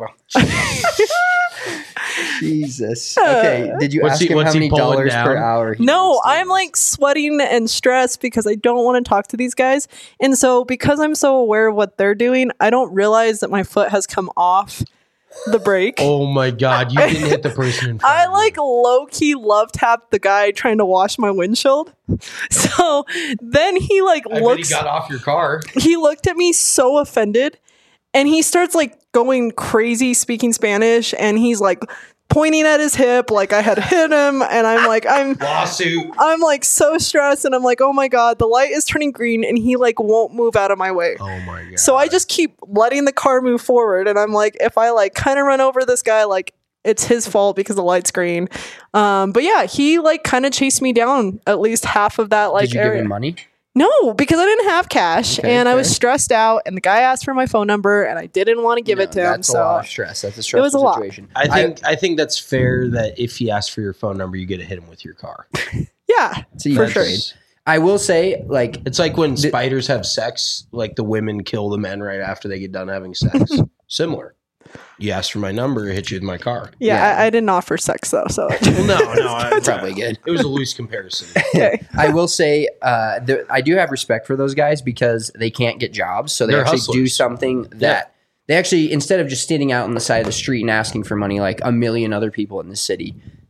Speaker 5: Jesus. Okay. Did you
Speaker 4: What's
Speaker 5: ask
Speaker 4: he-
Speaker 5: him
Speaker 4: what's
Speaker 5: how
Speaker 4: he
Speaker 5: many
Speaker 4: pulling
Speaker 5: dollars per
Speaker 4: down?
Speaker 5: hour? he
Speaker 8: No,
Speaker 5: makes?
Speaker 8: I'm like sweating and stressed because I don't want to talk to these guys. And so because I'm so aware of what they're doing, I don't realize that my foot has come off the brake.
Speaker 4: oh my God, you didn't hit the person in front
Speaker 8: I
Speaker 4: of you.
Speaker 8: like low key love tapped the guy trying to wash my windshield. So then he like
Speaker 4: I bet
Speaker 8: looks
Speaker 4: he got off your car.
Speaker 8: he looked at me so offended and he starts like going crazy speaking Spanish and he's like pointing at his hip like I had hit him and I'm like I'm
Speaker 4: Lawsuit.
Speaker 8: I'm like so stressed and I'm like, oh my God, the light is turning green and he like won't move out of my way.
Speaker 4: Oh my God.
Speaker 8: So I just keep letting the car move forward and I'm like, if I like kind of run over this guy, like it's his fault because the light's green. Um, but yeah, he like kind of chased me down at least half of that like
Speaker 5: Did you
Speaker 8: area.
Speaker 5: give him money?
Speaker 8: No, because I didn't have cash
Speaker 5: Okay,
Speaker 8: and I was
Speaker 5: fair.
Speaker 8: stressed out and the guy asked for my phone number and I didn't want to give
Speaker 5: No,
Speaker 8: it to him.
Speaker 5: That's a lot
Speaker 8: So
Speaker 5: of stress. That's a stressful
Speaker 8: was a lot.
Speaker 5: situation.
Speaker 4: I think I, think that's fair that if he asks for your phone number, you get to hit him with your car.
Speaker 8: yeah,
Speaker 5: It's a
Speaker 8: for
Speaker 5: huge
Speaker 8: sure.
Speaker 5: trade. I will say, like,
Speaker 4: It's like when spiders have sex, like the women kill the men right after they get done having sex. Similar. You asked for my number, I hit you with my car.
Speaker 8: Yeah,
Speaker 5: Yeah.
Speaker 8: I, I didn't offer sex though. So
Speaker 4: Well, no, no, I,
Speaker 5: probably good.
Speaker 4: It was a loose comparison.
Speaker 8: okay.
Speaker 5: I will say, uh, the, I do have respect for those guys because they can't get jobs, so they
Speaker 4: They're
Speaker 5: actually do
Speaker 4: hustlers.
Speaker 5: something that they actually, instead of just standing out on the side of the street and asking for money like a million other people in the city,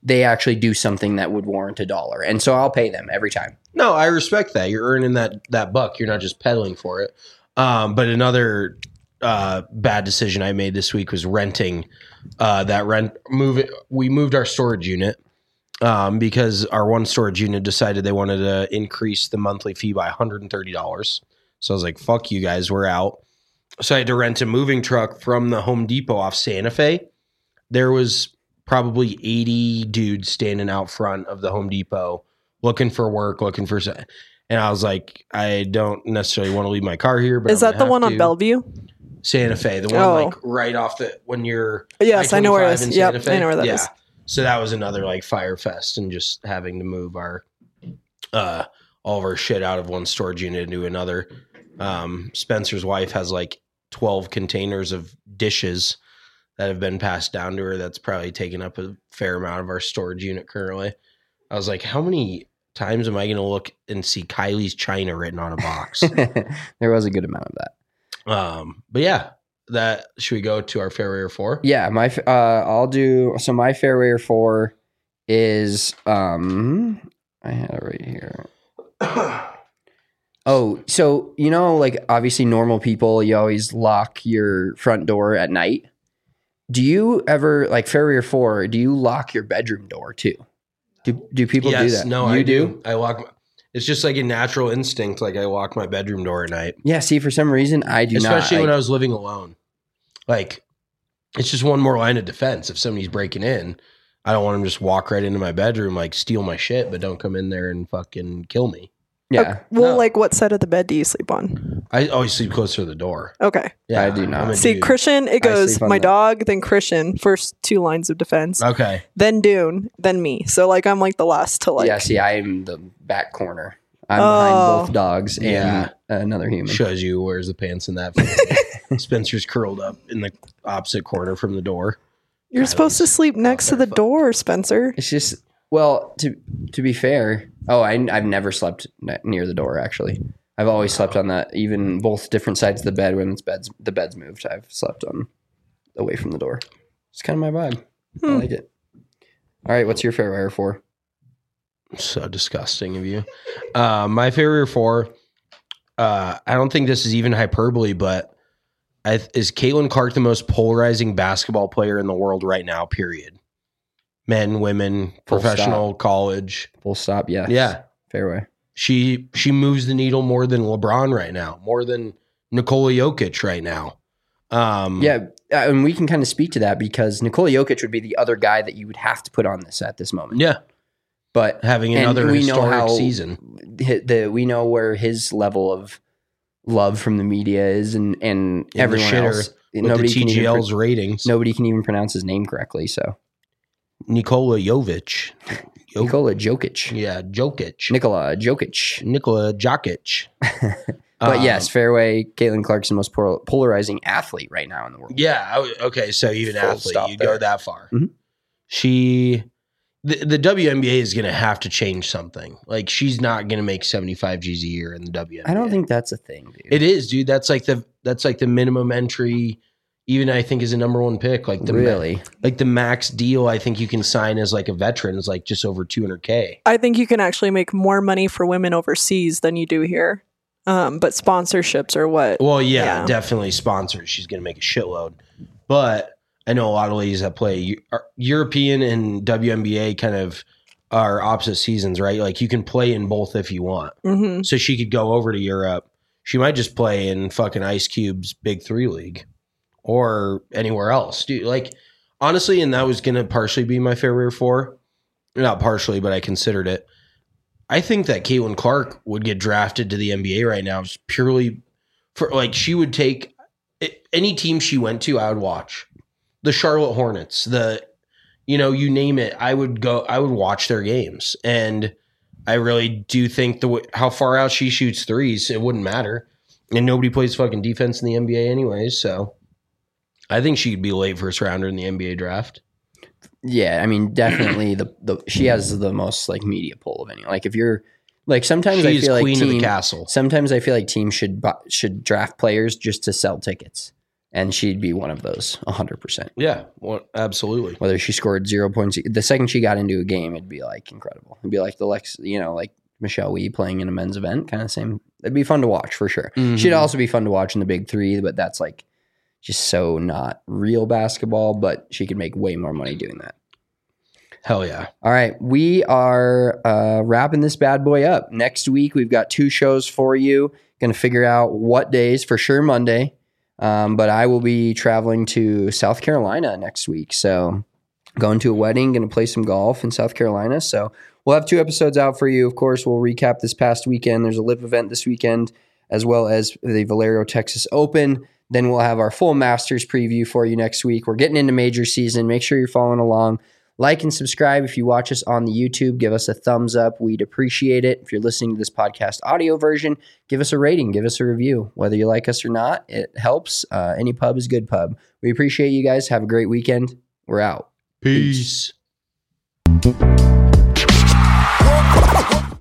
Speaker 5: they actually do something that would warrant a dollar. And so I'll pay them every time.
Speaker 4: No, I respect that. You're earning that that buck. You're not just peddling for it. Um, but another uh, bad decision I made this week was renting uh, that rent. Move it. We moved our storage unit um, because our one storage unit decided they wanted to increase the monthly fee by one hundred thirty dollars. So I was like, fuck you guys, we're out. So I had to rent a moving truck from the Home Depot off Santa Fe. There was probably eighty dudes standing out front of the Home Depot looking for work, looking for, and I was like, I don't necessarily want to leave my car here. But
Speaker 8: is
Speaker 4: I'm
Speaker 8: that the one
Speaker 4: to.
Speaker 8: on Bellevue?
Speaker 4: Santa Fe, the one
Speaker 8: Oh.
Speaker 4: like right off the when you're
Speaker 8: Yes, I know where it
Speaker 4: I
Speaker 8: is.
Speaker 4: twenty-five in
Speaker 8: Yep,
Speaker 4: Santa Fe.
Speaker 8: I know where that
Speaker 4: yeah.
Speaker 8: is.
Speaker 4: So that was another like fire fest, and just having to move our uh all of our shit out of one storage unit into another. Um, Spencer's wife has like twelve containers of dishes that have been passed down to her. That's probably taken up a fair amount of our storage unit currently. I was like, how many times am I going to look and see Kylie's China written on a box?
Speaker 5: There was a good amount of that.
Speaker 4: um, but yeah, that should we go to our fairway or four?
Speaker 5: Yeah, my f- uh, I'll do. So my fairway or four is um, I had it right here. Oh, so you know, like obviously normal people, you always lock your front door at night. Do you ever like fairway or four? Do you lock your bedroom door too? Do do people
Speaker 4: yes,
Speaker 5: do that?
Speaker 4: No,
Speaker 5: you
Speaker 4: I do. I lock. My, it's just like a natural instinct. Like I lock my bedroom door at night.
Speaker 5: Yeah. See, for some reason, I do
Speaker 4: Especially
Speaker 5: not.
Speaker 4: Especially when
Speaker 5: I,
Speaker 4: I was living alone. Like, it's just one more line of defense. If somebody's breaking in, I don't want them to just walk right into my bedroom, like steal my shit, but don't come in there and fucking kill me.
Speaker 5: Yeah.
Speaker 8: Uh, well,
Speaker 4: No.
Speaker 8: like what side of the bed do you sleep on?
Speaker 4: I always sleep closer to the door.
Speaker 8: Okay.
Speaker 4: Yeah,
Speaker 5: I do not.
Speaker 4: I'm a
Speaker 8: See,
Speaker 4: dude.
Speaker 8: Christian, it goes
Speaker 5: sleep on
Speaker 8: my
Speaker 5: the-
Speaker 8: dog, then Christian, first two lines of defense,
Speaker 4: Okay.
Speaker 8: then Dune, then me. So like I'm like the last to like.
Speaker 5: yeah. See, I am the back corner. I'm
Speaker 8: Oh.
Speaker 5: behind both dogs and
Speaker 4: Yeah.
Speaker 5: another human.
Speaker 4: Shows you who wears the pants in that family. Spencer's curled up in the opposite corner from the door.
Speaker 8: You're supposed to sleep next to the
Speaker 4: fuck.
Speaker 8: door, Spencer.
Speaker 5: It's just well, to to be fair. Oh, I, I've never slept ne- near the door. Actually, I've always slept on that. Even both different sides of the bed when it's beds the bed's moved. I've slept on away from the door. It's kind of my vibe. I
Speaker 8: Hmm.
Speaker 5: like it. All right, what's your fairway for?
Speaker 4: So disgusting of you. Uh, my favorite four, uh, I don't think this is even hyperbole, but I, is Caitlin Clark the most polarizing basketball player in the world right now, period? Men, women,
Speaker 5: Full
Speaker 4: professional, college.
Speaker 5: Full stop. Yeah.
Speaker 4: Yeah.
Speaker 5: Fairway.
Speaker 4: She she moves the needle more than LeBron right now, more than Nikola Jokic right now. Um,
Speaker 5: Yeah, uh, and we can kind of speak to that because Nikola Jokic would be the other guy that you would have to put on this at this moment.
Speaker 4: Yeah.
Speaker 5: But
Speaker 4: Having
Speaker 5: and
Speaker 4: another
Speaker 5: we know
Speaker 4: historic
Speaker 5: how
Speaker 4: season.
Speaker 5: hi- the we know where his level of love from the media is, and and
Speaker 4: In the
Speaker 5: everyone
Speaker 4: shitter
Speaker 5: else.
Speaker 4: With
Speaker 5: Nobody
Speaker 4: the
Speaker 5: can even
Speaker 4: T G L's
Speaker 5: pro-
Speaker 4: ratings.
Speaker 5: nobody can even pronounce his name correctly. So
Speaker 4: Nikola Jovic. Jo-
Speaker 5: Nikola Jokic,
Speaker 4: Yeah, Jokic.
Speaker 5: Nikola Jokic.
Speaker 4: Nikola Jokic.
Speaker 5: But
Speaker 4: Um,
Speaker 5: yes, fairway. Caitlin Clark's the most pol- polarizing athlete right now in the world.
Speaker 4: Yeah. I w- Okay. So even
Speaker 5: Full
Speaker 4: athlete,
Speaker 5: stop
Speaker 4: you
Speaker 5: there.
Speaker 4: go that far.
Speaker 5: Mhm.
Speaker 4: She, the, the W N B A is going to have to change something. Like she's not going to make seventy-five G's a year in the W N B A.
Speaker 5: I don't think that's a thing, dude.
Speaker 4: it is, dude. That's like the that's like the minimum entry. Even I think is a number one pick. Like the ma-
Speaker 5: really.
Speaker 4: like the max deal I think you can sign as like a veteran is like just over two hundred K.
Speaker 8: I think you can actually make more money for women overseas than you do here. Um, but sponsorships are what.
Speaker 4: Well, yeah,
Speaker 8: Yeah.
Speaker 4: definitely sponsors. She's going to make a shitload. But I know a lot of ladies that play Eu- are- European and W N B A kind of are opposite seasons, right? Like you can play in both if you want.
Speaker 8: Mhm.
Speaker 4: So she could go over to Europe. She might just play in fucking Ice Cube's Big Three League or anywhere else. Dude, like honestly, and that was going to partially be my favorite four. Not partially, but I considered it. I think that Caitlin Clark would get drafted to the N B A right now just purely for like she would take any team she went to. I would watch the Charlotte Hornets, the you know you name it. I would go. I would watch their games, and I really do think the w- how far out she shoots threes, it wouldn't matter, and nobody plays fucking defense in the N B A anyways. So I think she could be a late first rounder in the N B A draft.
Speaker 5: Yeah, I mean, definitely the, the she has the most like media pull of any. Like if you're like sometimes I
Speaker 4: She is
Speaker 5: feel like
Speaker 4: queen of the
Speaker 5: team,
Speaker 4: castle.
Speaker 5: sometimes I feel like teams should bu- should draft players just to sell tickets. And she'd be one of those, one hundred percent.
Speaker 4: Yeah, well, absolutely.
Speaker 5: Whether she scored zero points, the second she got into a game, it'd be like incredible. It'd be like the Lex, you know, like Michelle Wee playing in a men's event, kind of same. It'd be fun to watch for sure. Mm-hmm. She'd also be fun to watch in the big three, but that's like just so not real basketball, but she could make way more money doing that.
Speaker 4: Hell yeah.
Speaker 5: All right. We are uh, wrapping this bad boy up. Next week, we've got two shows for you. Going to figure out what days, for sure Monday. Um, but I will be traveling to South Carolina next week. So going to a wedding, going to play some golf in South Carolina. So we'll have two episodes out for you. Of course, we'll recap this past weekend. There's a live event this weekend, as well as the Valero Texas Open. Then we'll have our full Masters preview for you next week. We're getting into major season. Make sure you're following along. Like and subscribe if you watch us on the YouTube. Give us a thumbs up. We'd appreciate it. If you're listening to this podcast audio version, give us a rating. Give us a review. Whether you like us or not, it helps. Uh, any pub is good pub. We appreciate you guys. Have a great weekend. We're out.
Speaker 4: Peace.
Speaker 5: Peace.